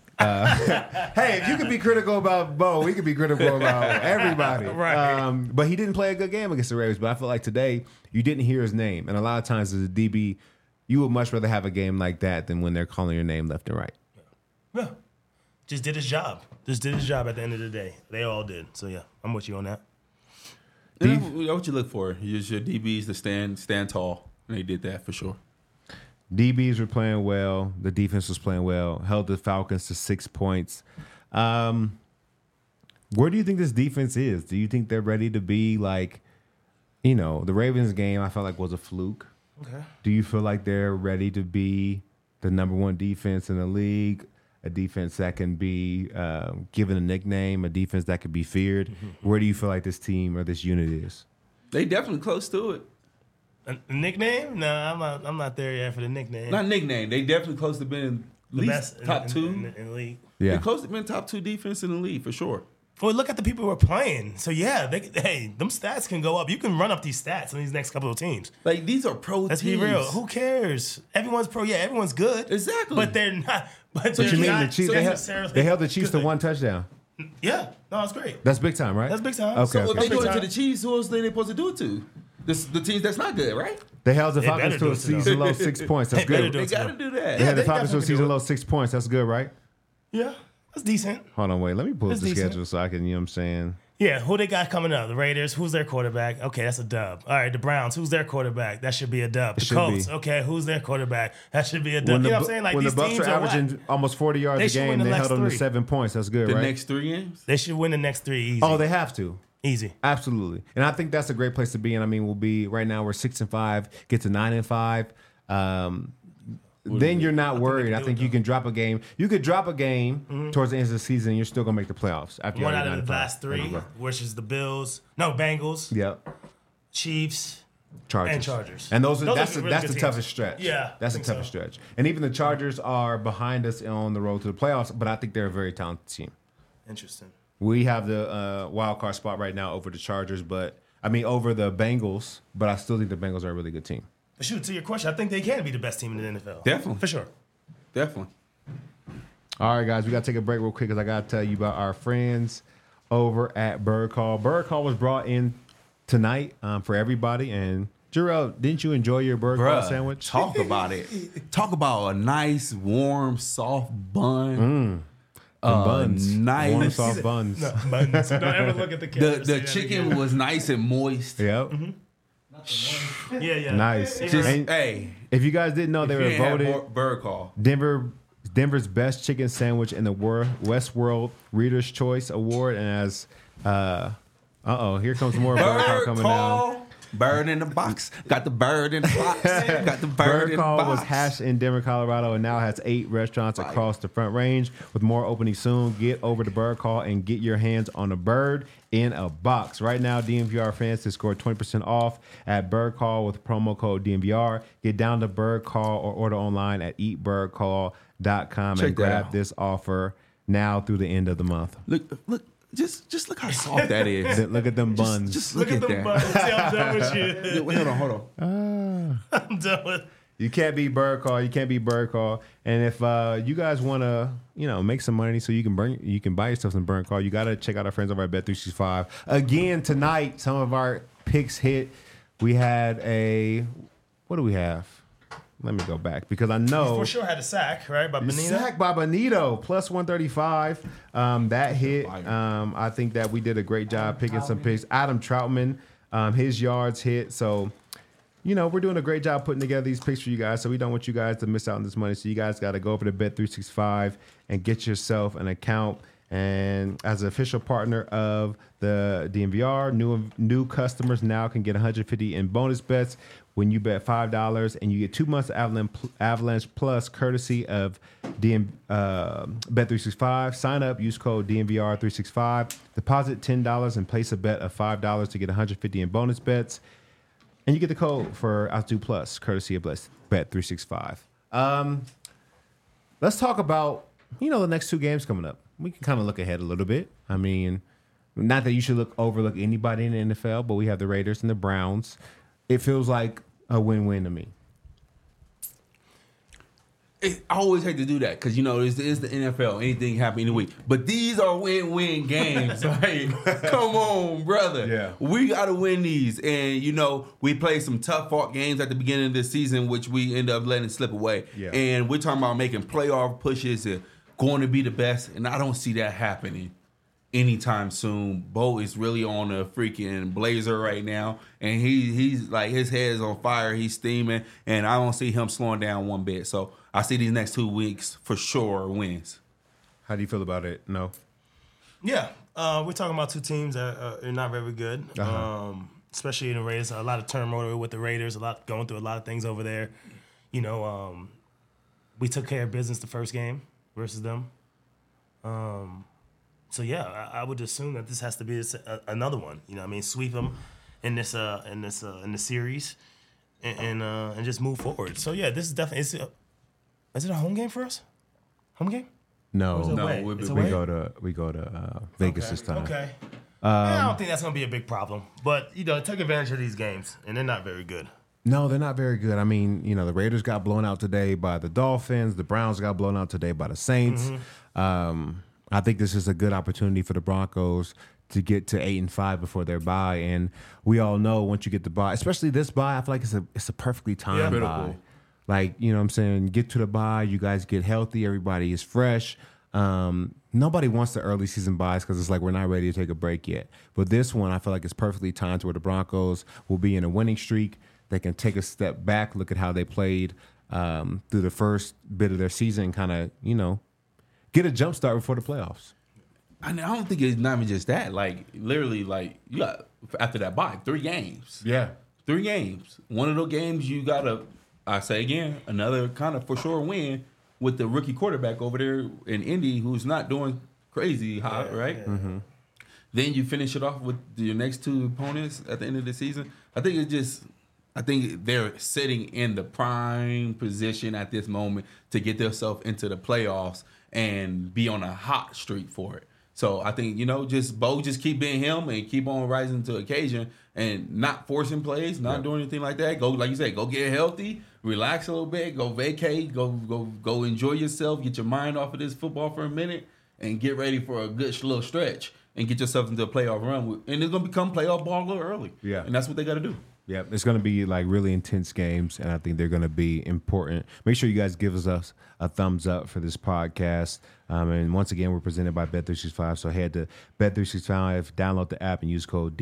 Hey, if you could be critical about Bo, we could be critical about everybody. Right. But he didn't play a good game against the Ravens. But I feel like today you didn't hear his name. And a lot of times as a DB, you would much rather have a game like that than when they're calling your name left and right. Yeah. Just did his job. Just did his job at the end of the day. They all did. So, yeah, I'm with you on that. That's what you look for. Use your DBs to stand tall. And they did that for sure. DBs were playing well. The defense was playing well. Held the Falcons to 6 points. Where do you think this defense is? Do you think they're ready to be like, the Ravens game I felt like was a fluke. Okay. Do you feel like they're ready to be the number 1 defense in the league? A defense that can be given a nickname, a defense that could be feared. Where do you feel like this team or this unit is? They definitely close to it. A nickname? No, I'm not there yet for the nickname. Not nickname. They definitely close to being at least best top 2 in the league. Yeah. They're close to being top 2 defense in the league for sure. Well, look at the people who are playing. So, yeah, them stats can go up. You can run up these stats on these next couple of teams. Like, these are pro Let's teams. be real. Who cares? Everyone's pro. Yeah, everyone's good. Exactly. But they're not. But But you mean not the Chiefs? They held the Chiefs to 1 touchdown. Yeah. No, it's great. That's big time, right? That's big time. Okay. So if they do it to time. the Chiefs, who else are they supposed to do it to? The teams that's not good, right? They held the They Falcons better to do a it to them. season low 6 points. That's They better good. do They it to got to them. do that. They had the they Falcons to a definitely season do it. low 6 points. That's good, right? Yeah, that's decent. Hold on, wait. Let me pull up That's the decent. schedule so I can, you know what I'm saying? Yeah, who they got coming up? The Raiders, who's their quarterback? Okay, that's a dub. All right, the Browns, who's their quarterback? That should be a dub. The should Colts, be. okay, who's their quarterback? That should be a dub. You know what I'm saying? Like, when these the Bucs teams are are whack. averaging almost 40 yards They a should game, win the they next held them to 3. 7 points. That's good, The right? next 3 games? They should win the next 3 easy. Oh, they have to. Easy. Absolutely. And I think that's a great place to be. And I mean, we'll be right now, we're 6-5, get to 9-5. Then you're not worried. I think you can drop a game. You could drop a game towards the end of the season and you're still going to make the playoffs. After One you're out already of the 9-5. last 3, which is the Bengals, Yep. Chiefs, Chargers. and Chargers. And that's are really the good toughest teams. stretch. Yeah, That's I the think toughest so. stretch. And even the Chargers are behind us on the road to the playoffs, but I think they're a very talented team. Interesting. We have the wild card spot right now over the Chargers, over the Bengals, but I still think the Bengals are a really good team. But shoot, to your question, I think they can be the best team in the NFL. Definitely. For sure. Definitely. All right, guys, we got to take a break real quick because I got to tell you about our friends over at Bird Call. Bird Call was brought in tonight for everybody. And Jarrell, didn't you enjoy your Bird Call sandwich? Talk about it. Talk about a nice, warm, soft bun. Buns. Nice. Warm, soft buns. No, buns. Don't ever look at the camera. The chicken was nice and moist. Yep. Yeah. Nice. Yeah. And Hey, if you guys didn't know, they were voted Bird Call. Denver's best chicken sandwich in the Westworld Reader's Choice Award. And as here comes more Bird Call coming down. Bird in the box. Got the bird in the box. Got the bird in the Call box. was hatched in Denver, Colorado, and now has 8 restaurants across the Front Range. With more opening soon, get over to Bird Call and get your hands on a bird in a box. Right now, DMVR fans can score 20% off at Bird Call with promo code DMVR. Get down to Bird Call or order online at eatbirdcall.com and grab this offer now through the end of the month. Look. Just look how soft that is. Look at them buns. Just look at the that. buns. See, I'm done with you. Wait, hold on. I'm done with You can't be Bird Call. You can't be Bird Call. And if you guys want to, make some money so you can buy yourself some Bird Call, you got to check out our friends over at Bet365. Again, tonight, some of our picks hit. We had what do we have? Let me go back because I know. for sure had a sack, right? By Benito. Sack by Benito, plus 135. That hit. I think that we did a great job picking some picks. Adam Troutman, his yards hit. So, we're doing a great job putting together these picks for you guys. So we don't want you guys to miss out on this money. So you guys got to go over to Bet365 and get yourself an account. And as an official partner of the DMVR, new customers now can get $150 in bonus bets when you bet $5, and you get 2 months of Avalanche Plus courtesy of Bet365. Sign up, use code DMVR365, deposit $10 and place a bet of $5 to get $150 in bonus bets, and you get the code for Altitude Plus courtesy of Bet365. Let's talk about the next 2 games coming up. We can kind of look ahead a little bit. I mean, not that you should overlook anybody in the NFL, but we have the Raiders and the Browns. It feels like a win-win to me. I always hate to do that because it's the NFL. Anything happen any week, but these are win-win games. Like, come on, brother. Yeah. We got to win these, and we played some tough-fought games at the beginning of this season, which we end up letting slip away. Yeah. And we're talking about making playoff pushes and going to be the best, and I don't see that happening anytime soon. Bo is really on a freaking blazer right now, and he's like his head is on fire. He's steaming, and I don't see him slowing down one bit. So I see these next 2 weeks for sure wins. How do you feel about it? No. Yeah, we're talking about 2 teams that are not very good, especially in the Raiders. A lot of turmoil with the Raiders. Going through a lot of things over there. We took care of business the first game versus them. So yeah, I would assume that this has to be another one. Sweep them in this series, and just move forward. So yeah, this is definitely. Is it a home game for us? Home game? No. Or is it away? No, It's We away? go to Vegas this time. Okay. I don't think that's gonna be a big problem, but take advantage of these games, and they're not very good. No, they're not very good. I mean, the Raiders got blown out today by the Dolphins. The Browns got blown out today by the Saints. I think this is a good opportunity for the Broncos to get to 8-5 before their bye. And we all know once you get the bye, especially this bye, I feel like it's a perfectly timed bye. Like, what I'm saying? Get to the bye, you guys get healthy, everybody is fresh. Nobody wants the early season buys because it's like we're not ready to take a break yet. But this one, I feel like it's perfectly timed to where the Broncos will be in a winning streak. They can take a step back, look at how they played through the first bit of their season, kind of, get a jump start before the playoffs. I don't think it's not even just that. Like, literally, like, you got, after that bye, 3 games. Yeah. 3 games. One of those games you got to, I say again, another kind of for sure win with the rookie quarterback over there in Indy who's not doing crazy hot, right? Yeah. Mm-hmm. Then you finish it off with your next 2 opponents at the end of the season. I think they're sitting in the prime position at this moment to get themselves into the playoffs and be on a hot streak for it. So I think, just keep being him and keep on rising to occasion and not forcing plays, not doing anything like that. Go, like you said, go get healthy, relax a little bit, go vacate, go enjoy yourself, get your mind off of this football for a minute, and get ready for a good little stretch and get yourself into a playoff run. And it's going to become playoff ball a little early. Yeah. And that's what they got to do. Yeah, it's going to be like really intense games, and I think they're going to be important. Make sure you guys give us a thumbs up for this podcast. And once again, we're presented by Bet365, so head to Bet365, download the app, and use code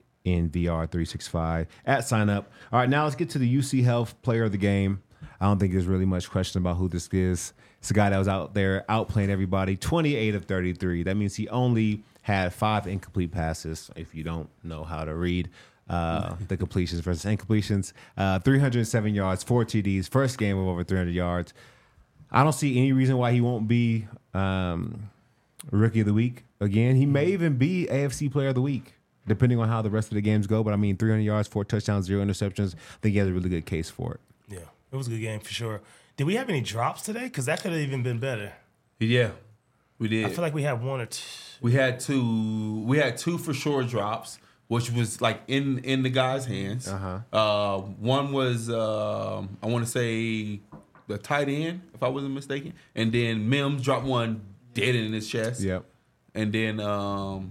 DNVR365 at sign up. All right, now let's get to the UC Health Player of the Game. I don't think there's really much question about who this is. It's a guy that was out there outplaying everybody, 28 of 33. That means he only had 5 incomplete passes, if you don't know how to read. The completions versus incompletions. 307 yards, 4 TDs, first game of over 300 yards. I don't see any reason why he won't be Rookie of the Week again. He may even be AFC Player of the Week, depending on how the rest of the games go. But, 300 yards, 4 touchdowns, 0 interceptions. I think he has a really good case for it. Yeah, it was a good game for sure. Did we have any drops today? Because that could have even been better. Yeah, we did. I feel like we had 1 or 2. We had 2. We had 2 for sure drops, which was like in the guy's hands. One was I want to say the tight end, if I wasn't mistaken, and then Mims dropped one dead in his chest. Yep. And then I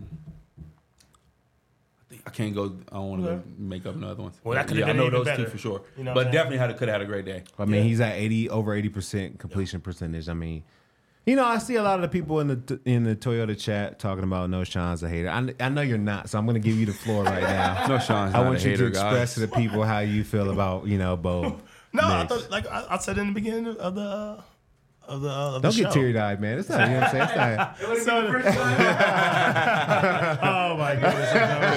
can't go. I don't want to go make up another one. Well, that could have been I know even those better. 2 for sure. You know what but I'm definitely could have had a great day. He's at over 80% completion percentage. I see a lot of the people in the Toyota chat talking about No Sean's a hater. I know you're not, so I'm going to give you the floor right now. No Sean's I not want a you hater, to express guys. to the people how you feel about Bo. No, I next. thought, like I said in the beginning of the Don't show. get teary-eyed, man. It's not, you know what I'm saying? It's not, Oh my goodness!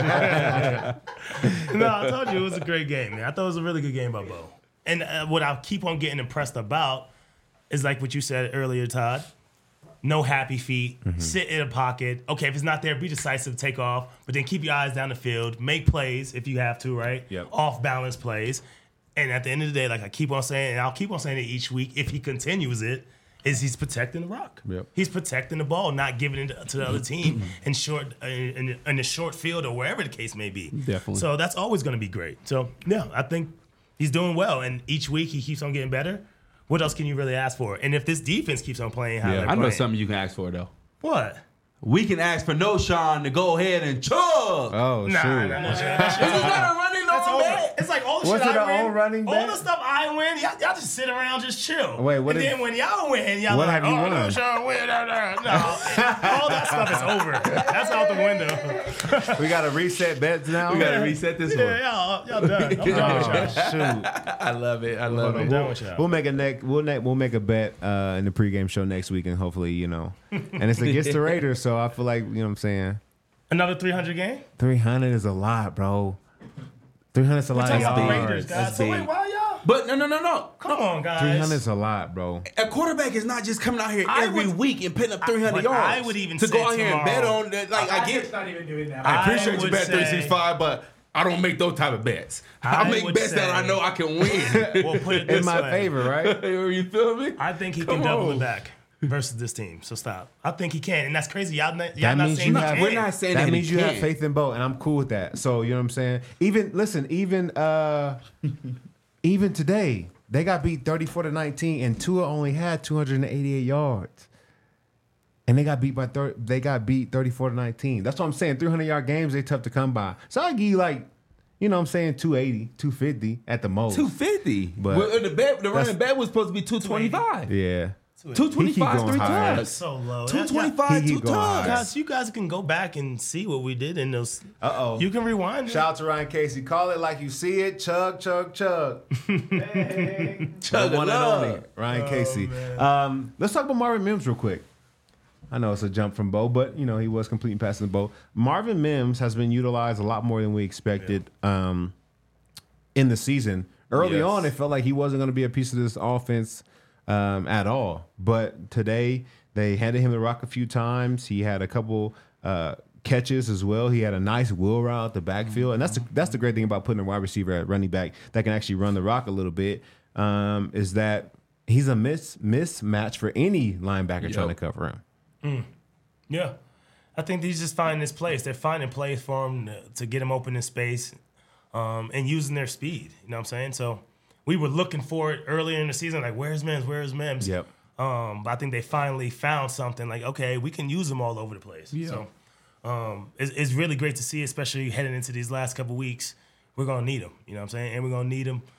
No, I told you it was a great game, man. I thought it was a really good game by Bo. And what I keep on getting impressed about is like what you said earlier, Todd. No happy feet. Sit in a pocket. Okay, if it's not there, be decisive, take off. But then keep your eyes down the field. Make plays if you have to, right? Yep. Off-balance plays. And at the end of the day, like I keep on saying, and I'll keep on saying it each week, if he continues it, is he's protecting the rock. Yep. He's protecting the ball, not giving it to the other team in the short field or wherever the case may be. Definitely. So that's always going to be great. So, yeah, I think he's doing well. And each week he keeps on getting better. What else can you really ask for? And if this defense keeps on playing how they're I know playing. something you can ask for, though. What? We can ask for No Sean to go ahead and chug. oh, Nah, shoot. nah, nah, This is not a running That's on over. bet. It's like all the Was shit it I an win. old running all bet? the stuff I win, y'all just sit around, just chill. Wait, what and did- then when y'all win, y'all what like, have you oh, won? no, Sean win. No, all that stuff is over. That's out the window. We got to reset bets now? We got to reset this one. Yeah, y'all done. I'm done with y'all. Shoot. I love it. I love I'm it. done with y'all. We'll make a bet in the pregame show next week, and hopefully, and it's against the Raiders, so I feel like, you know what I'm saying? Another 300 game? 300 is a lot, bro. 300 is a lot of Talking about the yards. Raiders, guys. That's So wait, big. why y'all? But no. Come on, guys. 300 is a lot, bro. A quarterback is not just coming out here I every would- week and putting up 300 but yards. I would even to say go out here and bet tomorrow- on that. Like I get, not even doing that. I I appreciate you would bet say- 365, but I don't make those type of bets. I I make would bets that say- I know I can win. We'll put it this In my way. favor, right? You feel me? I think he Come can double on. it back versus this team. So stop. I think he can, and that's crazy. Y'all not That means saying you he have- can. We're not saying That that means he you have can't. faith in Bo, and I'm cool with that. So, you know what I'm saying? Even today, they got beat 34-19, and Tua only had 288 yards. And they got beat 34-19. That's what I'm saying. 300-yard games, they tough to come by. So I'll give you 280, 250 at the most. 250. But Well, the running bet was supposed to be 225. Yeah. 225, going 3 higher. tugs. So low. 225, He 2 going higher. tugs. Guys, you guys can go back and see what we did in those. Uh-oh. You can rewind it. Shout out to Ryan Casey. Call it like you see it. Chug, chug, chug. Chug The one and love. only Ryan Casey. Let's talk about Marvin Mims real quick. I know it's a jump from Bo, but he was completing passes to Bo. Marvin Mims has been utilized a lot more than we expected in the season. Early Yes. on, it felt like he wasn't going to be a piece of this offense at all. But today, they handed him the rock a few times. He had a couple catches as well. He had a nice wheel route at the backfield, and that's the great thing about putting a wide receiver at running back that can actually run the rock a little bit. Is that he's a mismatch for any linebacker trying to cover him. Yeah. I think he's just finding his place. They're finding plays for him to get him open in space and using their speed. You know what I'm saying? So we were looking for it earlier in the season, like, where's Mims? Where's Mims? Yep. But I think they finally found something like, okay, we can use him all over the place. Yeah. So it's really great to see, especially heading into these last couple weeks. We're going to need him, you know what I'm saying? And we're going to need him,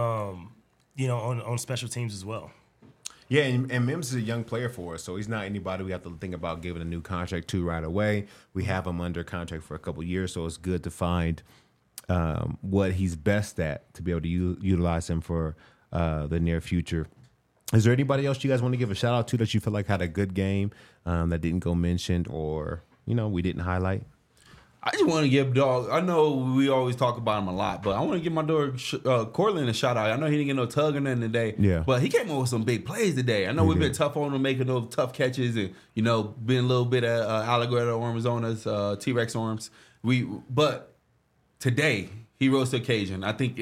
on special teams as well. Yeah, and Mims is a young player for us, so he's not anybody we have to think about giving a new contract to right away. We have him under contract for a couple years, so it's good to find what he's best at to be able to utilize him for the near future. Is there anybody else you guys want to give a shout out to that you feel like had a good game that didn't go mentioned or we didn't highlight? I just want to give dog. I know we always talk about him a lot, but I want to give my dog Cortland a shout out. I know he didn't get no tug or nothing today, but he came up with some big plays today. I know we've been tough on him making those tough catches and being a little bit of alligator arms on us, T-Rex arms. But today he rose to occasion. I think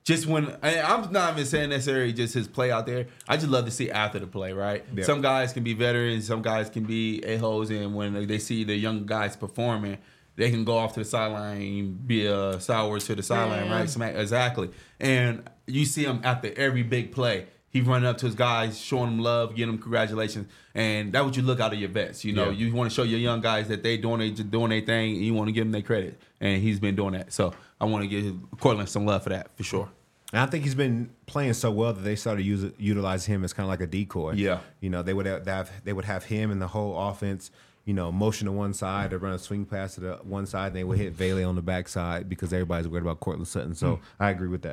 I'm not even saying necessarily just his play out there. I just love to see after the play, right? Yeah. Some guys can be veterans, some guys can be a-holes, and when they see the young guys performing, they can go off to the sideline and be a sour to the sideline, right? Exactly. And you see him after every big play. He running up to his guys, showing them love, giving them congratulations. And that's what you look out of your vets. You want to show your young guys that they doing their thing, and you want to give them their credit. And he's been doing that. So I want to give Cortland some love for that, for sure. And I think he's been playing so well that they started utilizing him as kind of like a decoy. Yeah. They would have him and the whole offense motion to one side or run a swing pass to the one side, and they would hit Vele on the backside because everybody's worried about Cortland Sutton. So I agree with that.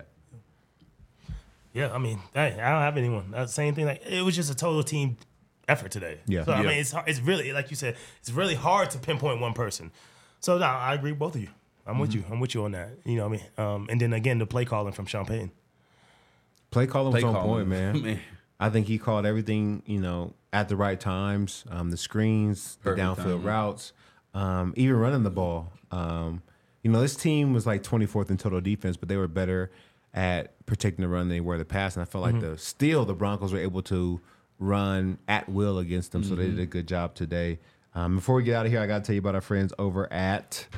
Yeah, I mean, I don't have anyone. Same thing. Like, it was just a total team effort today. Yeah. So I mean, it's really, like you said, it's really hard to pinpoint one person. So no, I agree with both of you. I'm with you. I'm with you on that. You know what I mean? And then again, the play calling from Sean Payton. Play calling was on point, man. I think he called everything, at the right times. The screens, the downfield routes, even running the ball. This team was like 24th in total defense, but they were better at protecting the run than they were the pass. And I felt like the Broncos were able to run at will against them, so they did a good job today. Before we get out of here, I got to tell you about our friends over at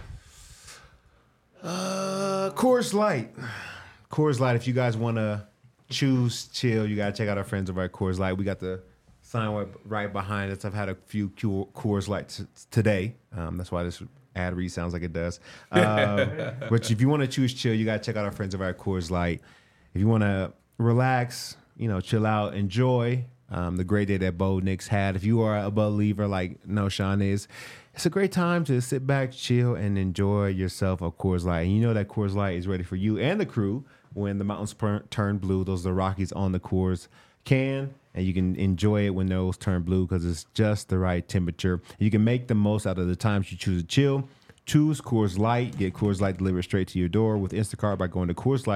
Coors Light. Coors Light, if you guys want to choose chill, you got to check out our friends over at Coors Light. We got the sign right behind us. I've had a few Coors Lights today. That's why this ad read sounds like it does. But if you want to choose chill, you got to check out our friends over at Coors Light. If you want to relax, chill out, enjoy the great day that Bo Nix had. If you are a believer like Sean is, it's a great time to sit back, chill, and enjoy yourself a Coors Light. And you know that Coors Light is ready for you and the crew when the mountains turn blue. Those are the Rockies on the Coors can, and you can enjoy it when those turn blue because it's just the right temperature. You can make the most out of the times you choose to chill. Choose Coors Light. Get Coors Light delivered straight to your door with Instacart by going to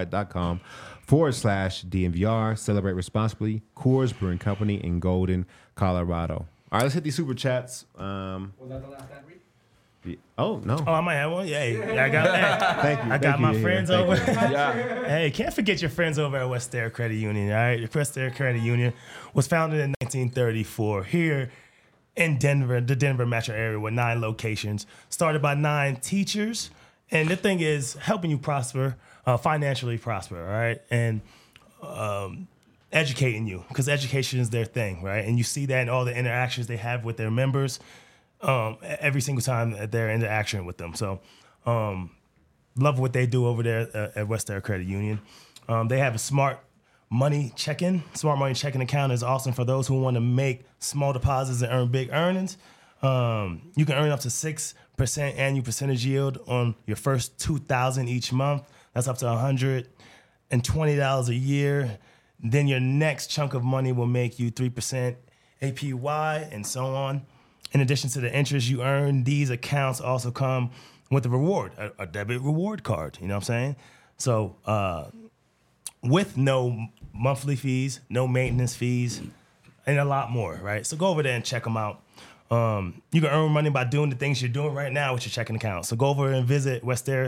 CoorsLight.com/DNVR. Celebrate responsibly. Coors Brewing Company in Golden, Colorado. All right, let's hit these super chats. Was that the last ad read? Oh, no. Oh, I might have one. Yeah, I got Thank you. I got my friends over. Yeah. Hey, can't forget your friends over at West Air Credit Union. All right, West Air Credit Union was founded in 1934 here in Denver, the Denver metro area, with 9 locations, started by 9 teachers. And the thing is, helping you prosper, financially prosper, all right? And educating you, because education is their thing, right? And you see that in all the interactions they have with their members every single time that they're in interaction with them. So love what they do over there at West Air Credit Union. They have a smart money checking. Smart money checking account is awesome for those who want to make small deposits and earn big earnings. You can earn up to 6% annual percentage yield on your first $2,000 each month. That's up to $120 a year. Then your next chunk of money will make you 3% APY and so on. In addition to the interest you earn, these accounts also come with a reward, a debit reward card. You know what I'm saying? So with no monthly fees, no maintenance fees, and a lot more, right? So go over there and check them out. You can earn money by doing the things you're doing right now with your checking account. So go over and visit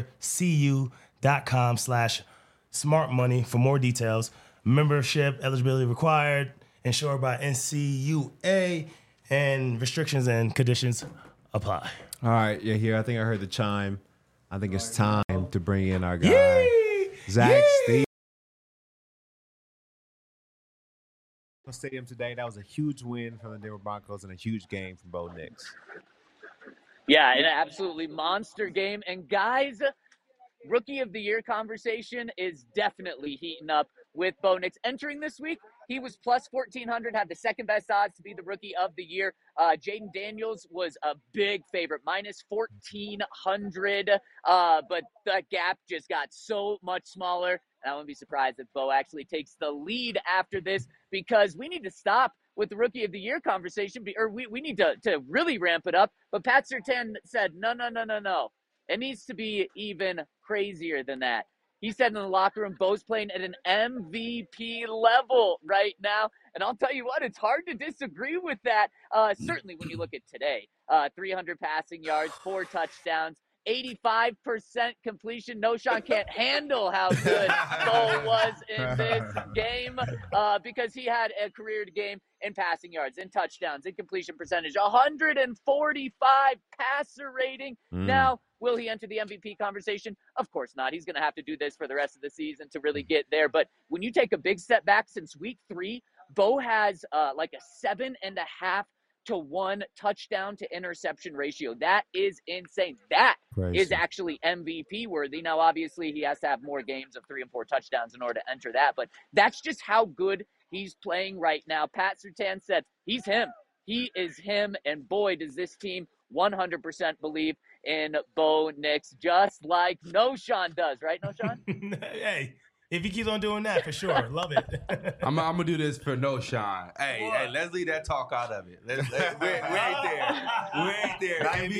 westerncu.com/smartmoney for more details. Membership eligibility required, insured by NCUA, and restrictions and conditions apply. All right, you're here. I think I heard the chime. I think it's time to bring in our guy, Zach Steve. Stadium today. That was a huge win from the Denver Broncos and a huge game from Bo Nix. Yeah, an absolutely monster game. And guys, Rookie of the Year conversation is definitely heating up with Bo Nix. Entering this week, he was plus 1,400, had the second best odds to be the Rookie of the Year. Jaden Daniels was a big favorite, minus 1,400, but the gap just got so much smaller. And I wouldn't be surprised if Bo actually takes the lead after this, because we need to stop with the Rookie of the Year conversation, or we need to really ramp it up. But Pat Surtain said, no. It needs to be even crazier than that. He said in the locker room, Bo's playing at an MVP level right now. And I'll tell you what, it's hard to disagree with that. Certainly when you look at today, 300 passing yards, 4 touchdowns, 85% completion. Knowshon can't handle how good Bo was in this game because he had a career game in passing yards, in touchdowns, in completion percentage, 145 passer rating. Now, will he enter the MVP conversation? Of course not. He's going to have to do this for the rest of the season to really get there. But when you take a big step back since week 3, Bo has like a 7.5-to-1 touchdown to interception ratio. That is insane. That is actually MVP worthy. Now, obviously, he has to have more games of 3 and 4 touchdowns in order to enter that, but that's just how good he's playing right now. Pat Surtain said he's him. He is him, and boy, does this team 100% believe in Bo Nix, just like Knowshon does, right, Knowshon? Hey, if he keeps on doing that, for sure. Love it. I'm gonna do this for Knowshon. Hey, let's leave that talk out of it. We ain't there. We ain't there.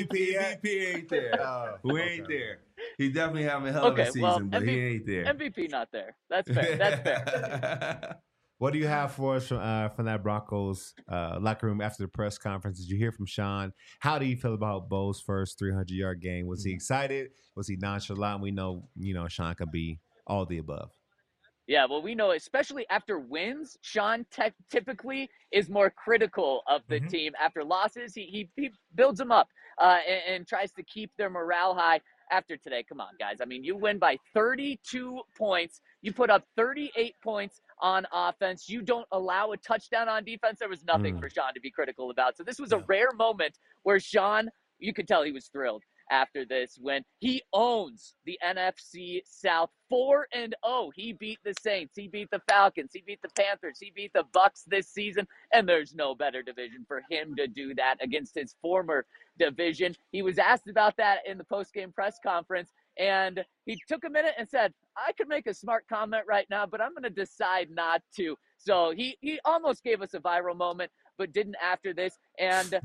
MVP ain't there. We ain't there. He's definitely having a hell of a season, but he ain't there. MVP not there. That's fair. That's fair. What do you have for us from that Broncos locker room after the press conference? Did you hear from Sean? How do you feel about Bo's first 300-yard game? Was he excited? Was he nonchalant? We know, Sean could be all the above. Yeah, well, we know, especially after wins, Sean typically is more critical of the team. After losses, he builds them up and tries to keep their morale high. After today, come on, guys. I mean, you win by 32 points. You put up 38 points on offense. You don't allow a touchdown on defense. There was nothing for Sean to be critical about. So this was a rare moment where Sean, you could tell he was thrilled after this when he owns the NFC South 4-0. He beat the Saints. He beat the Falcons. He beat the Panthers. He beat the Bucks this season. And there's no better division for him to do that against his former division. He was asked about that in the post-game press conference, and he took a minute and said, I could make a smart comment right now, but I'm going to decide not to. So he almost gave us a viral moment, but didn't after this. And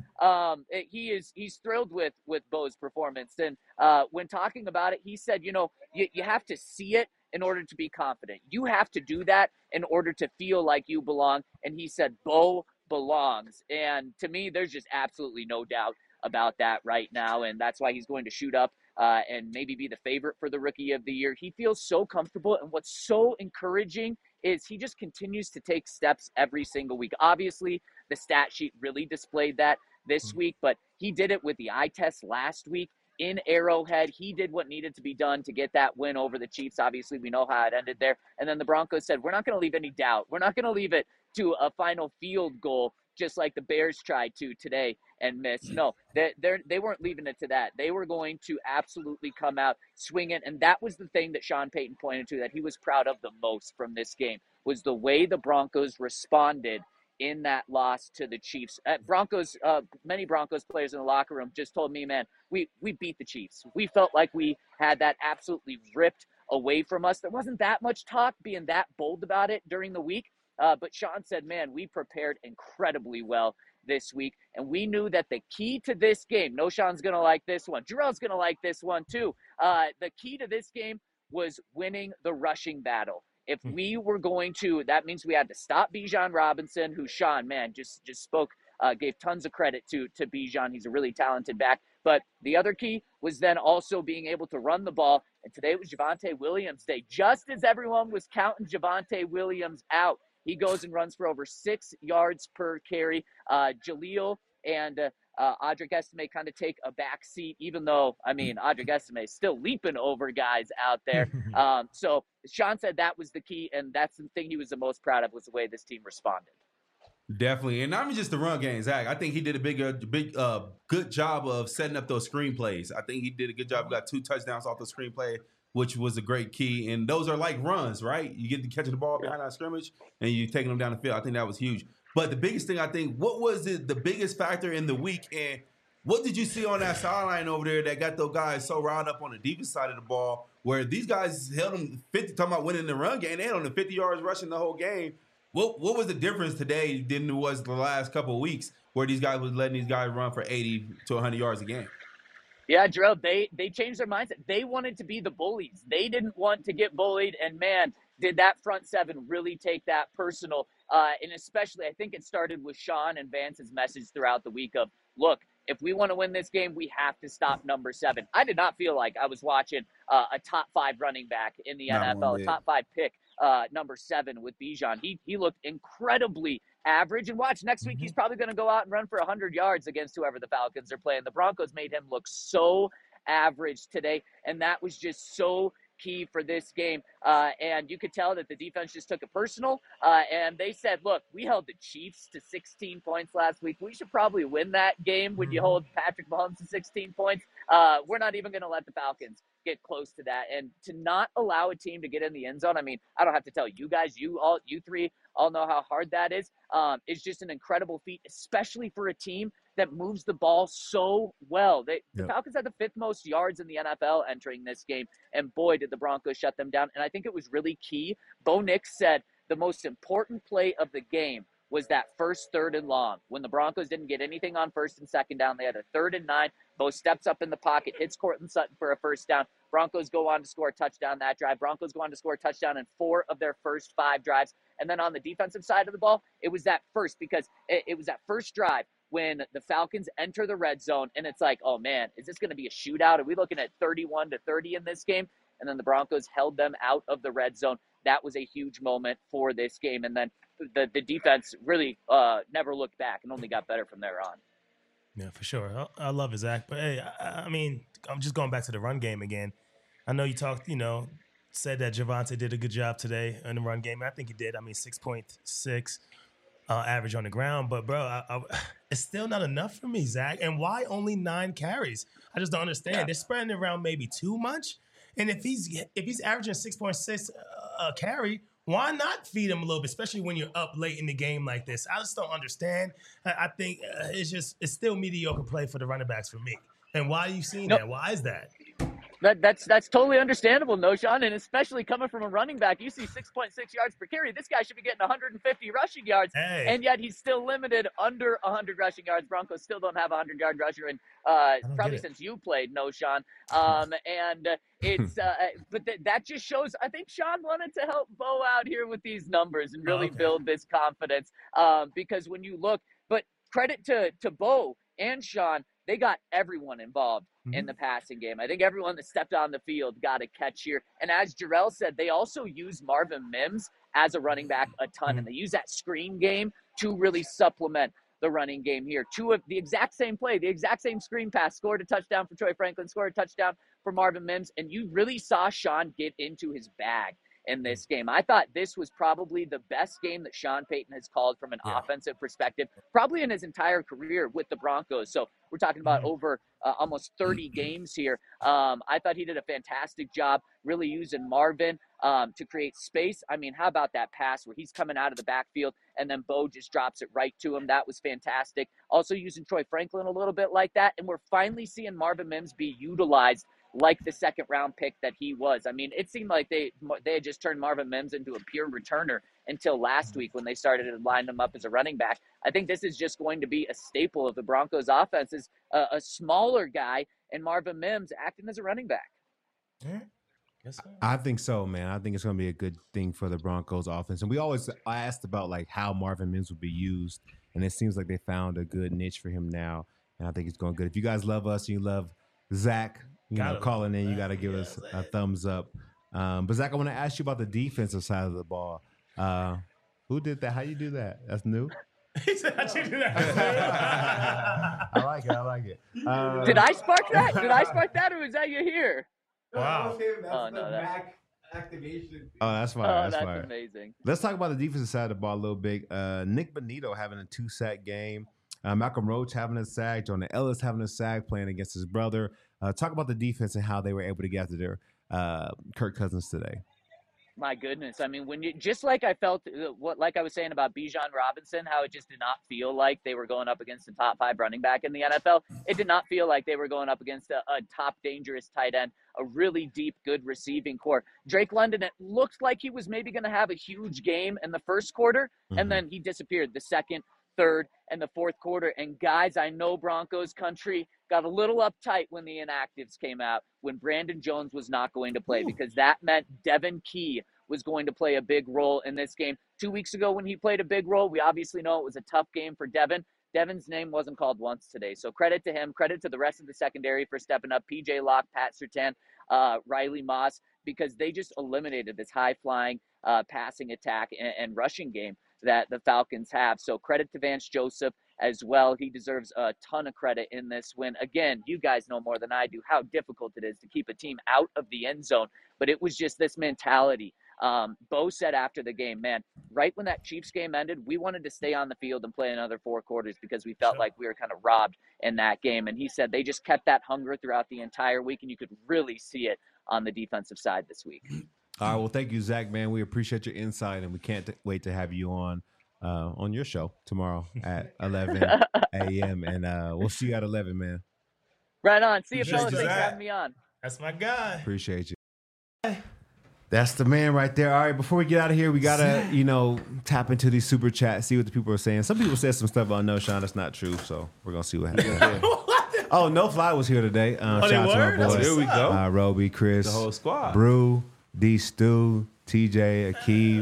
he's thrilled with Bo's performance. And when talking about it, he said, you have to see it in order to be confident. You have to do that in order to feel like you belong. And he said, Bo belongs. And to me, there's just absolutely no doubt about that right now. And that's why he's going to shoot up and maybe be the favorite for the Rookie of the Year. He feels so comfortable. And what's so encouraging is he just continues to take steps every single week. Obviously, the stat sheet really displayed that this week, but he did it with the eye test last week in Arrowhead. He did what needed to be done to get that win over the Chiefs. Obviously, we know how it ended there. And then the Broncos said, we're not going to leave any doubt. We're not going to leave it to a final field goal. just like the Bears tried to today and miss. No, they weren't leaving it to that. They were going to absolutely come out swinging, and that was the thing that Sean Payton pointed to that he was proud of the most from this game, was the way the Broncos responded in that loss to the Chiefs. Many Broncos players in the locker room just told me, man, we beat the Chiefs. We felt like we had that absolutely ripped away from us. There wasn't that much talk being that bold about it during the week. But Sean said, man, we prepared incredibly well this week. And we knew that the key to this game, no, Sean's going to like this one. Jarrell's going to like this one too. The key to this game was winning the rushing battle. If we were going to, that means we had to stop Bijan Robinson, who Sean, man, just spoke, gave tons of credit to Bijan. He's a really talented back. But the other key was then also being able to run the ball. And today was Javonte Williams' day. Just as everyone was counting Javonte Williams out, he goes and runs for over 6 yards per carry. Jaleel and Audric Estime kind of take a back seat, even though, I mean, Audric Estime is still leaping over guys out there. So Sean said that was the key, and that's the thing he was the most proud of, was the way this team responded. Definitely. And not even just the run game, Zach. I think he did a good job of setting up those screenplays. I think he did a good job. Got 2 touchdowns off the screenplay, which was a great key. And those are like runs, right? You get to catching the ball behind our scrimmage, and you taking them down the field. I think that was huge. But the biggest thing, I think, what was the biggest factor in the week? And what did you see on that sideline over there that got those guys so riled up on the defense side of the ball, where these guys held them 50, talking about winning the run game, they had on the 50 yards rushing the whole game. What was the difference today than it was the last couple of weeks, where these guys was letting these guys run for 80 to 100 yards a game? Yeah, Jarrell, they changed their mindset. They wanted to be the bullies. They didn't want to get bullied, and man, did that front seven really take that personal. And especially, I think it started with Sean and Vance's message throughout the week of, look, if we want to win this game, we have to stop number 7. I did not feel like I was watching a top 5 running back in the NFL, a top 5 pick, number 7 with Bijan. He looked incredibly average. And watch, next week he's probably going to go out and run for 100 yards against whoever the Falcons are playing. The Broncos made him look so average today, and that was just so key for this game. And you could tell that the defense just took it personal. And they said, look, we held the Chiefs to 16 points last week. We should probably win that game when you hold Patrick Mahomes to 16 points. We're not even going to let the Falcons get close to that. And to not allow a team to get in the end zone, I mean, I don't have to tell you guys, you three all know how hard that is. It's just an incredible feat, especially for a team that moves the ball so well. The Falcons had the 5th most yards in the NFL entering this game, and boy, did the Broncos shut them down. And I think it was really key. Bo Nix said the most important play of the game was that first 3rd and long. When the Broncos didn't get anything on 1st and 2nd down, they had a 3rd and 9. Bo steps up in the pocket, hits Courtland Sutton for a first down. Broncos go on to score a touchdown that drive. Broncos go on to score a touchdown in 4 of their first 5 drives. And then on the defensive side of the ball, it was that first, because it was that first drive when the Falcons enter the red zone, and it's like, oh man, is this going to be a shootout? Are we looking at 31-30 in this game? And then the Broncos held them out of the red zone. That was a huge moment for this game. And then the defense really never looked back and only got better from there on. Yeah, for sure. I love it, Zach. But hey, I mean, I'm just going back to the run game again. I know you talked, said that Javonte did a good job today in the run game. I think he did. I mean, 6.6 average on the ground. But, bro, it's still not enough for me, Zach. And why only 9 carries? I just don't understand. Yeah. They're spreading it around maybe too much. And if he's averaging 6.6 carry, why not feed him a little bit, especially when you're up late in the game like this? I just don't understand. I think it's still mediocre play for the running backs for me. And why are you seeing that? Why is that? That's totally understandable, no, Sean, and especially coming from a running back. You see 6.6 yards per carry. This guy should be getting 150 rushing yards, and yet he's still limited under 100 rushing yards. Broncos still don't have a 100-yard rusher, and probably since you played, no, Sean. And it's but that just shows. I think Sean wanted to help Bo out here with these numbers and really build this confidence. Because when you look, but credit to Bo and Sean, they got everyone involved in the passing game. I think everyone that stepped on the field got a catch here. And as Jarrell said, they also use Marvin Mims as a running back a ton, and they use that screen game to really supplement the running game here. 2 of the exact same play, the exact same screen pass, scored a touchdown for Troy Franklin, scored a touchdown for Marvin Mims, and you really saw Sean get into his bag in this game. I thought this was probably the best game that Sean Payton has called from an offensive perspective, probably in his entire career with the Broncos. So we're talking about over almost 30 games here. I thought he did a fantastic job really using Marvin to create space. I mean, how about that pass where he's coming out of the backfield and then Bo just drops it right to him? That was fantastic. Also using Troy Franklin a little bit like that. And we're finally seeing Marvin Mims be utilized like the second round pick that he was. I mean, it seemed like they had just turned Marvin Mims into a pure returner until last week when they started to line him up as a running back. I think this is just going to be a staple of the Broncos offense, is a smaller guy and Marvin Mims acting as a running back. Yeah. Yes, sir. I think so, man. I think it's going to be a good thing for the Broncos offense. And we always asked about like how Marvin Mims would be used, and it seems like they found a good niche for him now, and I think it's going good. If you guys love us and you love Zach, calling in, you got to give us a thumbs up. But Zach, I want to ask you about the defensive side of the ball. Who did that? How you do that? That's new. He said, "How'd you do that?" I like it. I like it. Did I spark that? Did I spark that, or was that you here? Wow. That's no, the that- Mac activation. Oh, that's fine. Oh, that's that's fine. amazing. Let's talk about the defensive side of the ball a little bit. Nick Bonito having a 2-sack game. Malcolm Roach having a sack. Jonah Ellis having a sack, playing against his brother. Talk about the defense and how they were able to get after their Kirk Cousins today. My goodness. I mean, when you, just like I felt, like I was saying about Bijan Robinson, how it just did not feel like they were going up against a top 5 running back in the NFL. It did not feel like they were going up against a top dangerous tight end, a really deep, good receiving core. Drake London, it looked like he was maybe going to have a huge game in the first quarter, and then he disappeared the second, third, and the fourth quarter. And guys, I know Broncos country got a little uptight when the inactives came out, when Brandon Jones was not going to play, because that meant Devin Key was going to play a big role in this game. 2 weeks ago when he played a big role, we obviously know it was a tough game for Devin. Devin's name wasn't called once today. So credit to him, credit to the rest of the secondary for stepping up, PJ Locke, Pat Surtain, Riley Moss, because they just eliminated this high-flying passing attack and rushing game that the Falcons have. So credit to Vance Joseph as well. He deserves a ton of credit in this win. Again, you guys know more than I do how difficult it is to keep a team out of the end zone, but it was just this mentality. Bo said after the game, man, right when that Chiefs game ended, we wanted to stay on the field and play another 4 quarters because we felt like we were kind of robbed in that game. And he said they just kept that hunger throughout the entire week, and you could really see it on the defensive side this week. All right, well, thank you, Zach, man. We appreciate your insight, and we can't wait to have you on your show tomorrow at 11 a.m. And we'll see you at 11, man. Right on. See you, Appreciate fellas. you, Thanks for Zach. having me on. That's my guy. Appreciate you. That's the man right there. All right, before we get out of here, we got to, tap into these super chats, see what the people are saying. Some people said some stuff about No Sean that's not true, so we're going to see what happens. Oh, No Fly was here today. Shout out to my boys. Here we go. Roby, Chris, The whole squad. Brew, D Stu, TJ,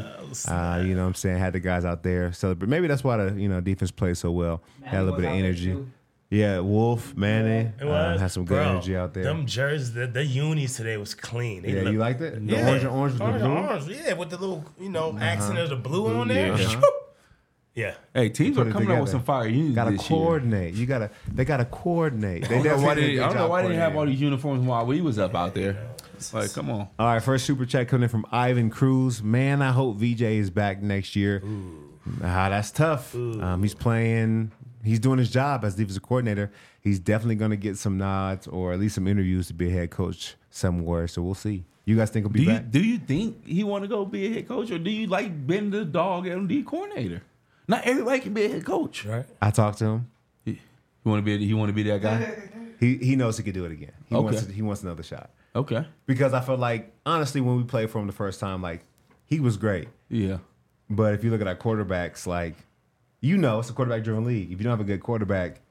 Akeem. You know what I'm saying? Had the guys out there celebrate. Maybe that's why the defense plays so well. Had a little bit of energy. Yeah, Wolf, Manny, had some good energy out there. Them jerseys, the unis today was clean. They Yeah, look- you liked it? The Yeah. orange with the blue? Orange, yeah, with the little, accent of the blue on there. Yeah. Yeah. Hey, teams Put are it coming out with together. some fire unis Gotta this year. coordinate. They gotta coordinate. I don't know why they didn't have all these uniforms while we was up out there. Like, come on. All right, first super chat coming in from Ivan Cruz. Man, I hope VJ is back next year. That's tough. He's playing. He's doing his job as defensive coordinator. He's definitely going to get some nods or at least some interviews to be a head coach somewhere. So we'll see. You guys think he'll be back? Do you think he want to go be a head coach, or do you like being the dog MD coordinator? Not everybody can be a head coach, Right. I talked to him. You want to be that guy? He knows he could do it again. Okay. He wants another shot. Okay. Because I felt like, honestly, when we played for him the first time, like, he was great. Yeah. But if you look at our quarterbacks, like, it's a quarterback-driven league. If you don't have a good quarterback,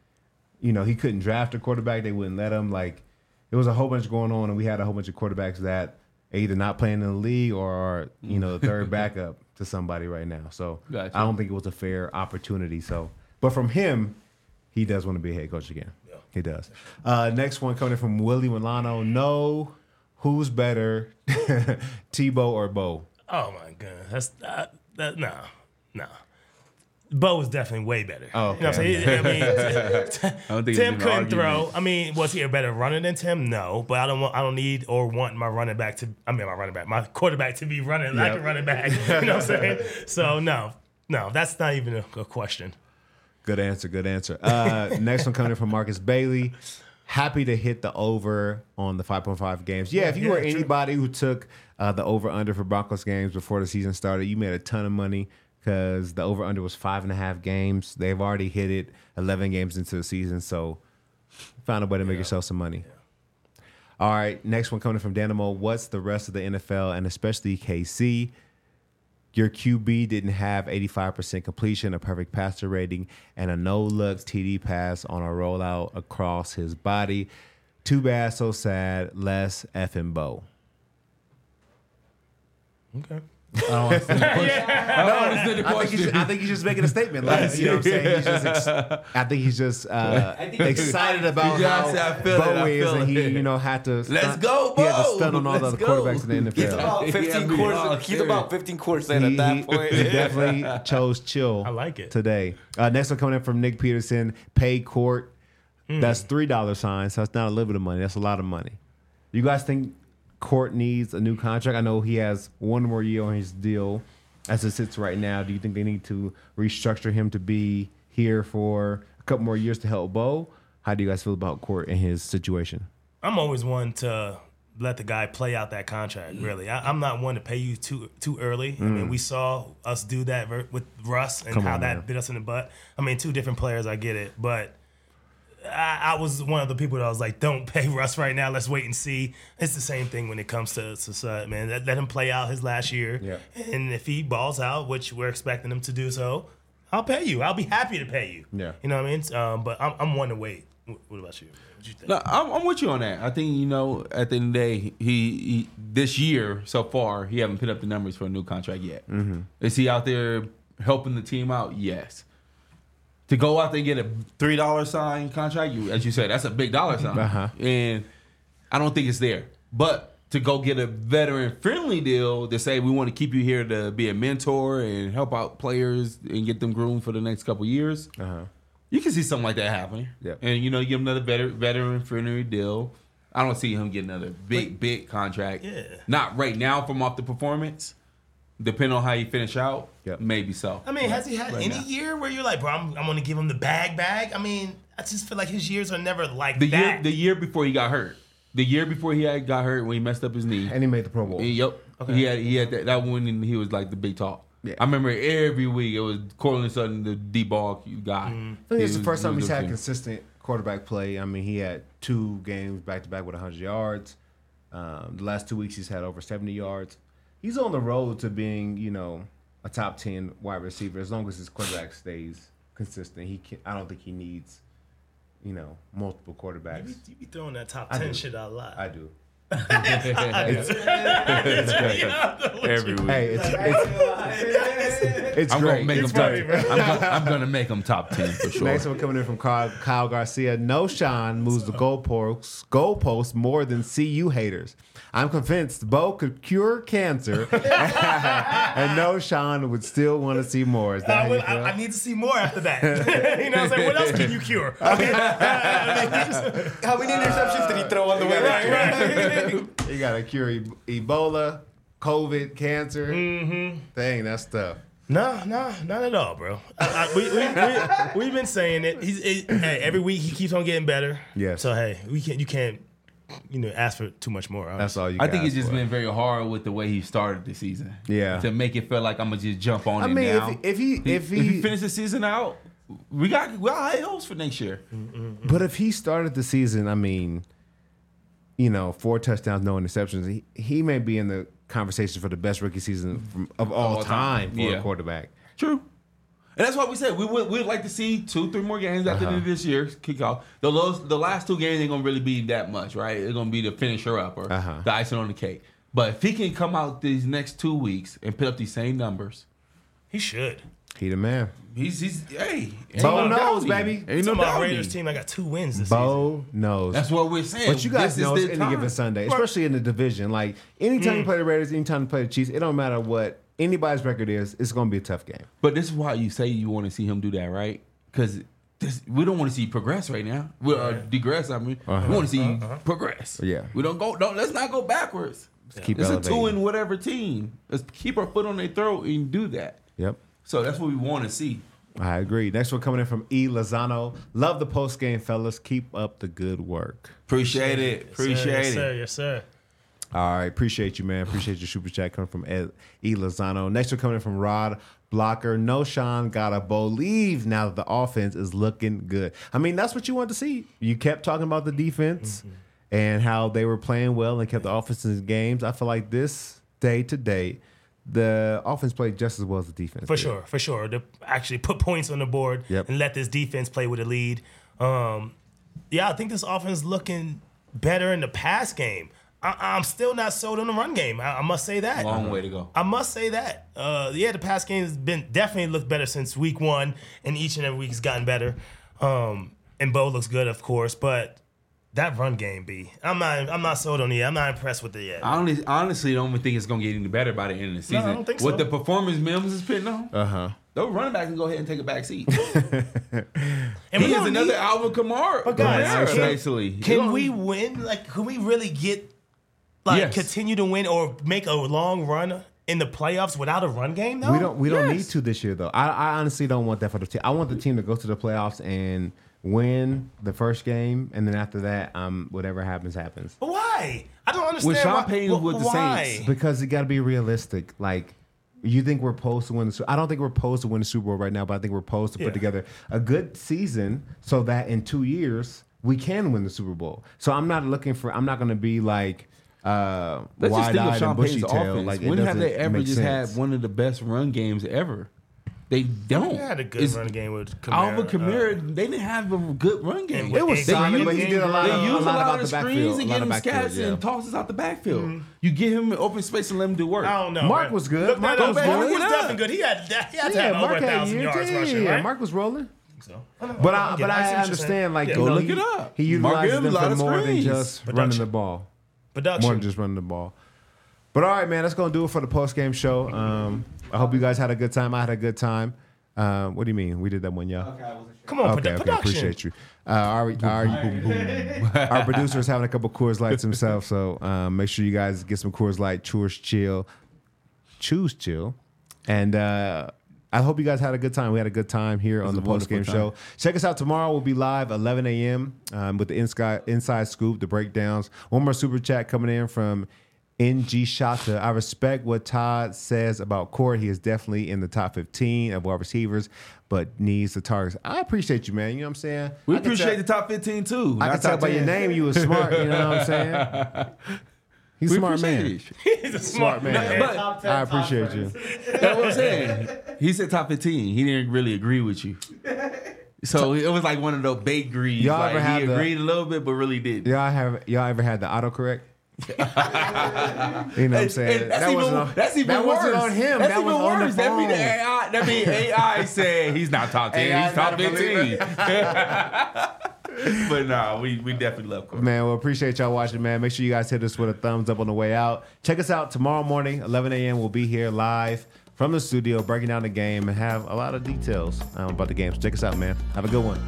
he couldn't draft a quarterback. They wouldn't let him. Like, it was a whole bunch going on, and we had a whole bunch of quarterbacks that are either not playing in the league or are, the third backup to somebody right now. So Gotcha. I don't think it was a fair opportunity. So, but from him, he does want to be a head coach again. Yeah. He does. Next one coming in from Willie Milano. No, who's better, Tebow or Bo? Oh my goodness, that's no. Bo was definitely way better. Oh, You know what I'm okay. saying? I mean, I don't think Tim it's an couldn't argument. throw. I mean, was he a better runner than Tim? No, but I don't need or want my my quarterback to be running like a running back. You know what I'm saying? So no, that's not even a question. Good answer. Next one coming in from Marcus Bailey. Happy to hit the over on the 5.5 games. Yeah, if you were anybody who took the over-under for Broncos games before the season started, you made a ton of money because the over-under was 5.5 games. They've already hit it 11 games into the season, so found a way to make yourself some money. Yeah. All right, next one coming from Danimo. What's the rest of the NFL and especially KC? Your QB didn't have 85% completion, a perfect passer rating, and a no-looks TD pass on a rollout across his body. Too bad, so sad. Less effing Bo. Okay. I don't understand the question. I think he's just making a statement. Like, you know what I'm saying? I think he's just excited about how Bo is, and he, had to. Let's go, He had to Bo! stun on all the other quarterbacks in the He's NFL. about 15 quarters. He's about 15 quarters in He at that point. definitely chose chill. I like it. Today. Next one coming in from Nick Peterson. Pay court. That's $3 sign. So it's not a little bit of money. That's a lot of money. You guys think Court needs a new contract? I know he has one more year on his deal as it sits right now. Do you think they need to restructure him to be here for a couple more years to help Bo? How do you guys feel about Court and his situation? I'm always one to let the guy play out that contract, really. I'm not one to pay you too early. I mean, we saw us do that with Russ and how that bit us in the butt. I mean, two different players, I get it. But I was one of the people that was like, don't pay Russ right now. Let's wait and see. It's the same thing when it comes to Sud, man. Let him play out his last year. Yeah. And if he balls out, which we're expecting him to do so, I'll pay you. I'll be happy to pay you. Yeah. You know what I mean? But I'm one to wait. What about you? What you think? No, I'm with you on that. I think, at the end of the day, he this year so far, he haven't put up the numbers for a new contract yet. Mm-hmm. Is he out there helping the team out? Yes. To go out there and get a $3 sign contract, as you said, that's a big dollar sign. Uh-huh. And I don't think it's there. But to go get a veteran-friendly deal to say we want to keep you here to be a mentor and help out players and get them groomed for the next couple years, you can see something like that happening. Yep. And, you give him another veteran-friendly deal. I don't see him getting another big contract. Yeah. Not right now from off the performance. Depending on how you finish out, maybe so. I mean, has he had any year where you're like, bro, I'm going to give him the bag? I mean, I just feel like his years are never like that. The year before he got hurt. The year before he got hurt when he messed up his knee. And he made the Pro Bowl. Yep. Okay. He had that one, and he was like the big talk. Yeah. I remember every week it was Cortland Sutton, the D-ball guy. I think it's the first time he's had consistent. consistent quarterback play. I mean, he had 2 games back-to-back with 100 yards. The last 2 weeks he's had over 70 yards. He's on the road to being, a top 10 wide receiver as long as his quarterback stays consistent. I don't think he needs, multiple quarterbacks. You be throwing that top 10 shit out a lot. I do. It's great. Every week. Hey, it's I'm great. gonna make It's him great. I'm gonna make him top 10 for sure. Next one coming in from Kyle Garcia. No Sean moves the goalposts more than CU haters. I'm convinced Bo could cure cancer, and no Sean would still want to see more. Is that how you feel? I need to see more after that. You know what I'm saying? What else can you cure? Okay. How many interceptions did he throw on the way there? You gotta cure Ebola, COVID, cancer. Mm-hmm. Dang, that's tough. No, not at all, bro. We've been saying it. Hey, every week he keeps on getting better. Yes. So hey, you can't ask for too much more. Honestly. That's all you. I think it's just for. been very hard with the way he started the season. Yeah. To make it feel like I'm gonna just jump on I it mean, now. if he finishes the season out, we got high hopes for next year. But if he started the season, I mean, 4 touchdowns, no interceptions, he may be in the conversation for the best rookie season of all time for a quarterback. True. And that's why we said we'd like to see 2-3 more games after the end of this year kick off. The last 2 games ain't gonna really be that much, right? It's gonna be the finisher up or the icing on the cake. But if he can come out these next 2 weeks and put up these same numbers, he should. He the man. He's hey. Bo knows, baby. Ain't no My doubt. Raiders team, I got 2 wins this season. Bo knows. That's what we're saying. But you guys This know is it's the any time. given Sunday, especially in the division. Like anytime you play the Raiders, anytime you play the Chiefs, it don't matter what anybody's record is, it's going to be a tough game. But this is why you say you want to see him do that, right? Because we don't want to see progress right now. Digress. I mean, we want to see progress. Yeah. We don't go. Let's not go backwards. Keep It's elevating. a 2 in whatever team. Let's keep our foot on their throat and do that. Yep. So that's what we want to see. I agree. Next one coming in from E. Lozano. Love the post game, fellas. Keep up the good work. Appreciate it. Appreciate Yes, it. sir. Yes, sir. All right. Appreciate you, man. Appreciate your super chat coming from E. Lozano. Next one coming in from Rod Blocker. No, Sean, gotta believe now that the offense is looking good. I mean, that's what you want to see. You kept talking about the defense and how they were playing well and kept the offense in games. I feel like this day to day, the offense played just as well as the defense. For did. sure. To actually put points on the board Yep. and let this defense play with a lead. I think this offense is looking better in the pass game. I'm still not sold on the run game. I must say that. Long way to go. I must say that. The pass game has been definitely looked better since week 1, and each and every week has gotten better. And Bo looks good, of course, but that run game, B, I'm not sold on it. I'm not impressed with it yet. I honestly don't even think it's going to get any better by the end of the season. I don't think so. What the performance Mims is putting on, those running backs can go ahead and take a back seat. And He we is don't another need- Alvin Kamara. But guys, basically. Can we win? Like, can we really get Yes. continue to win or make a long run in the playoffs without a run game? Though We don't need Yes. to this year though. I honestly don't want that for the team. I want the team to go to the playoffs and win the first game, and then after that, whatever happens. But why? I don't understand. When Sean why, Payton was with the why? Saints, Because you got to be realistic. Like, you think we're supposed to win the Super I don't think we're supposed to win the Super Bowl right now, but I think we're supposed to Yeah. put together a good season so that in 2 years we can win the Super Bowl. So I'm not going to be like let's just think of wide-eyed Sean and bushy Payton's tail. offense. Like, it When have they doesn't ever make just sense. had one of the best run games ever? They don't. They had a good It's- run game with Kamara. Alvin Kamara, they didn't have a good run game. It was They solid, use- but he did a lot They of- use a lot about of the screens backfield, and a get lot him of backfield, scats yeah. and tosses out the backfield. You give him open space and let him do work. I don't know. Mark man. was good. Look, Mark that was up. good. Mark was Look it definitely up. good. He had to have over Mark had 1,000 years. yards Yeah, rushing, right? Mark was rolling. So, But I see what you're understand, like, saying. you Go know, look he, it up. he Mark utilizes Gibbs, them a lot for of more than screens. just running Production. the ball. Production. More than just running the ball. But all right, man, that's gonna do it for the post game show. I hope you guys had a good time. I had a good time. What do you mean? We did that one, y'all. Come on, Okay, production. appreciate you. Our producer is having a couple Coors Lights himself, so make sure you guys get some Coors Light, choose chill, and I hope you guys had a good time. We had a good time here on the a post game wonderful show. Check us out tomorrow. We'll be live 11 a.m. With the inside scoop, the breakdowns. One more super chat coming in from NG Shata. I respect what Todd says about Court. He is definitely in the top 15 of wide receivers, but needs the targets. I appreciate you, man. You know what I'm saying? We I can appreciate tell- the top 15 too. I not can tell top by your 10. name you was smart. You know what I'm saying? He's a We smart appreciate man. it. He's a smart man. But I appreciate you. that's what I'm saying. He said top 15. He didn't really agree with you. So it was like one of those bakeries. Y'all Like ever had he the- agreed a little bit, but really didn't. Y'all ever had the autocorrect? You know what I'm saying? And that's even worse. that wasn't on him. That's that was even on the worse. That mean phone. AI. That mean AI said he's not top 10. AI He's top not a 15. But nah, we definitely love Corey. Man, well, appreciate y'all watching, man. Make sure you guys hit us with a thumbs up on the way out. Check us out tomorrow morning, 11 a.m. We'll be here live from the studio, breaking down the game and have a lot of details about the game. So check us out, man. Have a good one.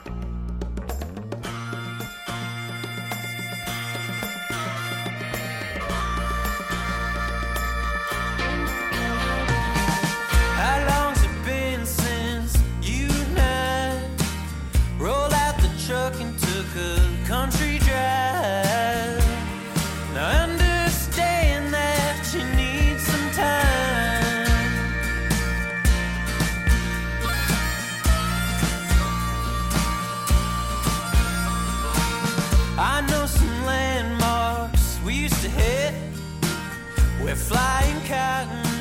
How long's it been since you and I rolled out the truck and took a country drive? Now I understand that you need some time. I know some landmarks we used to hit where flying cotton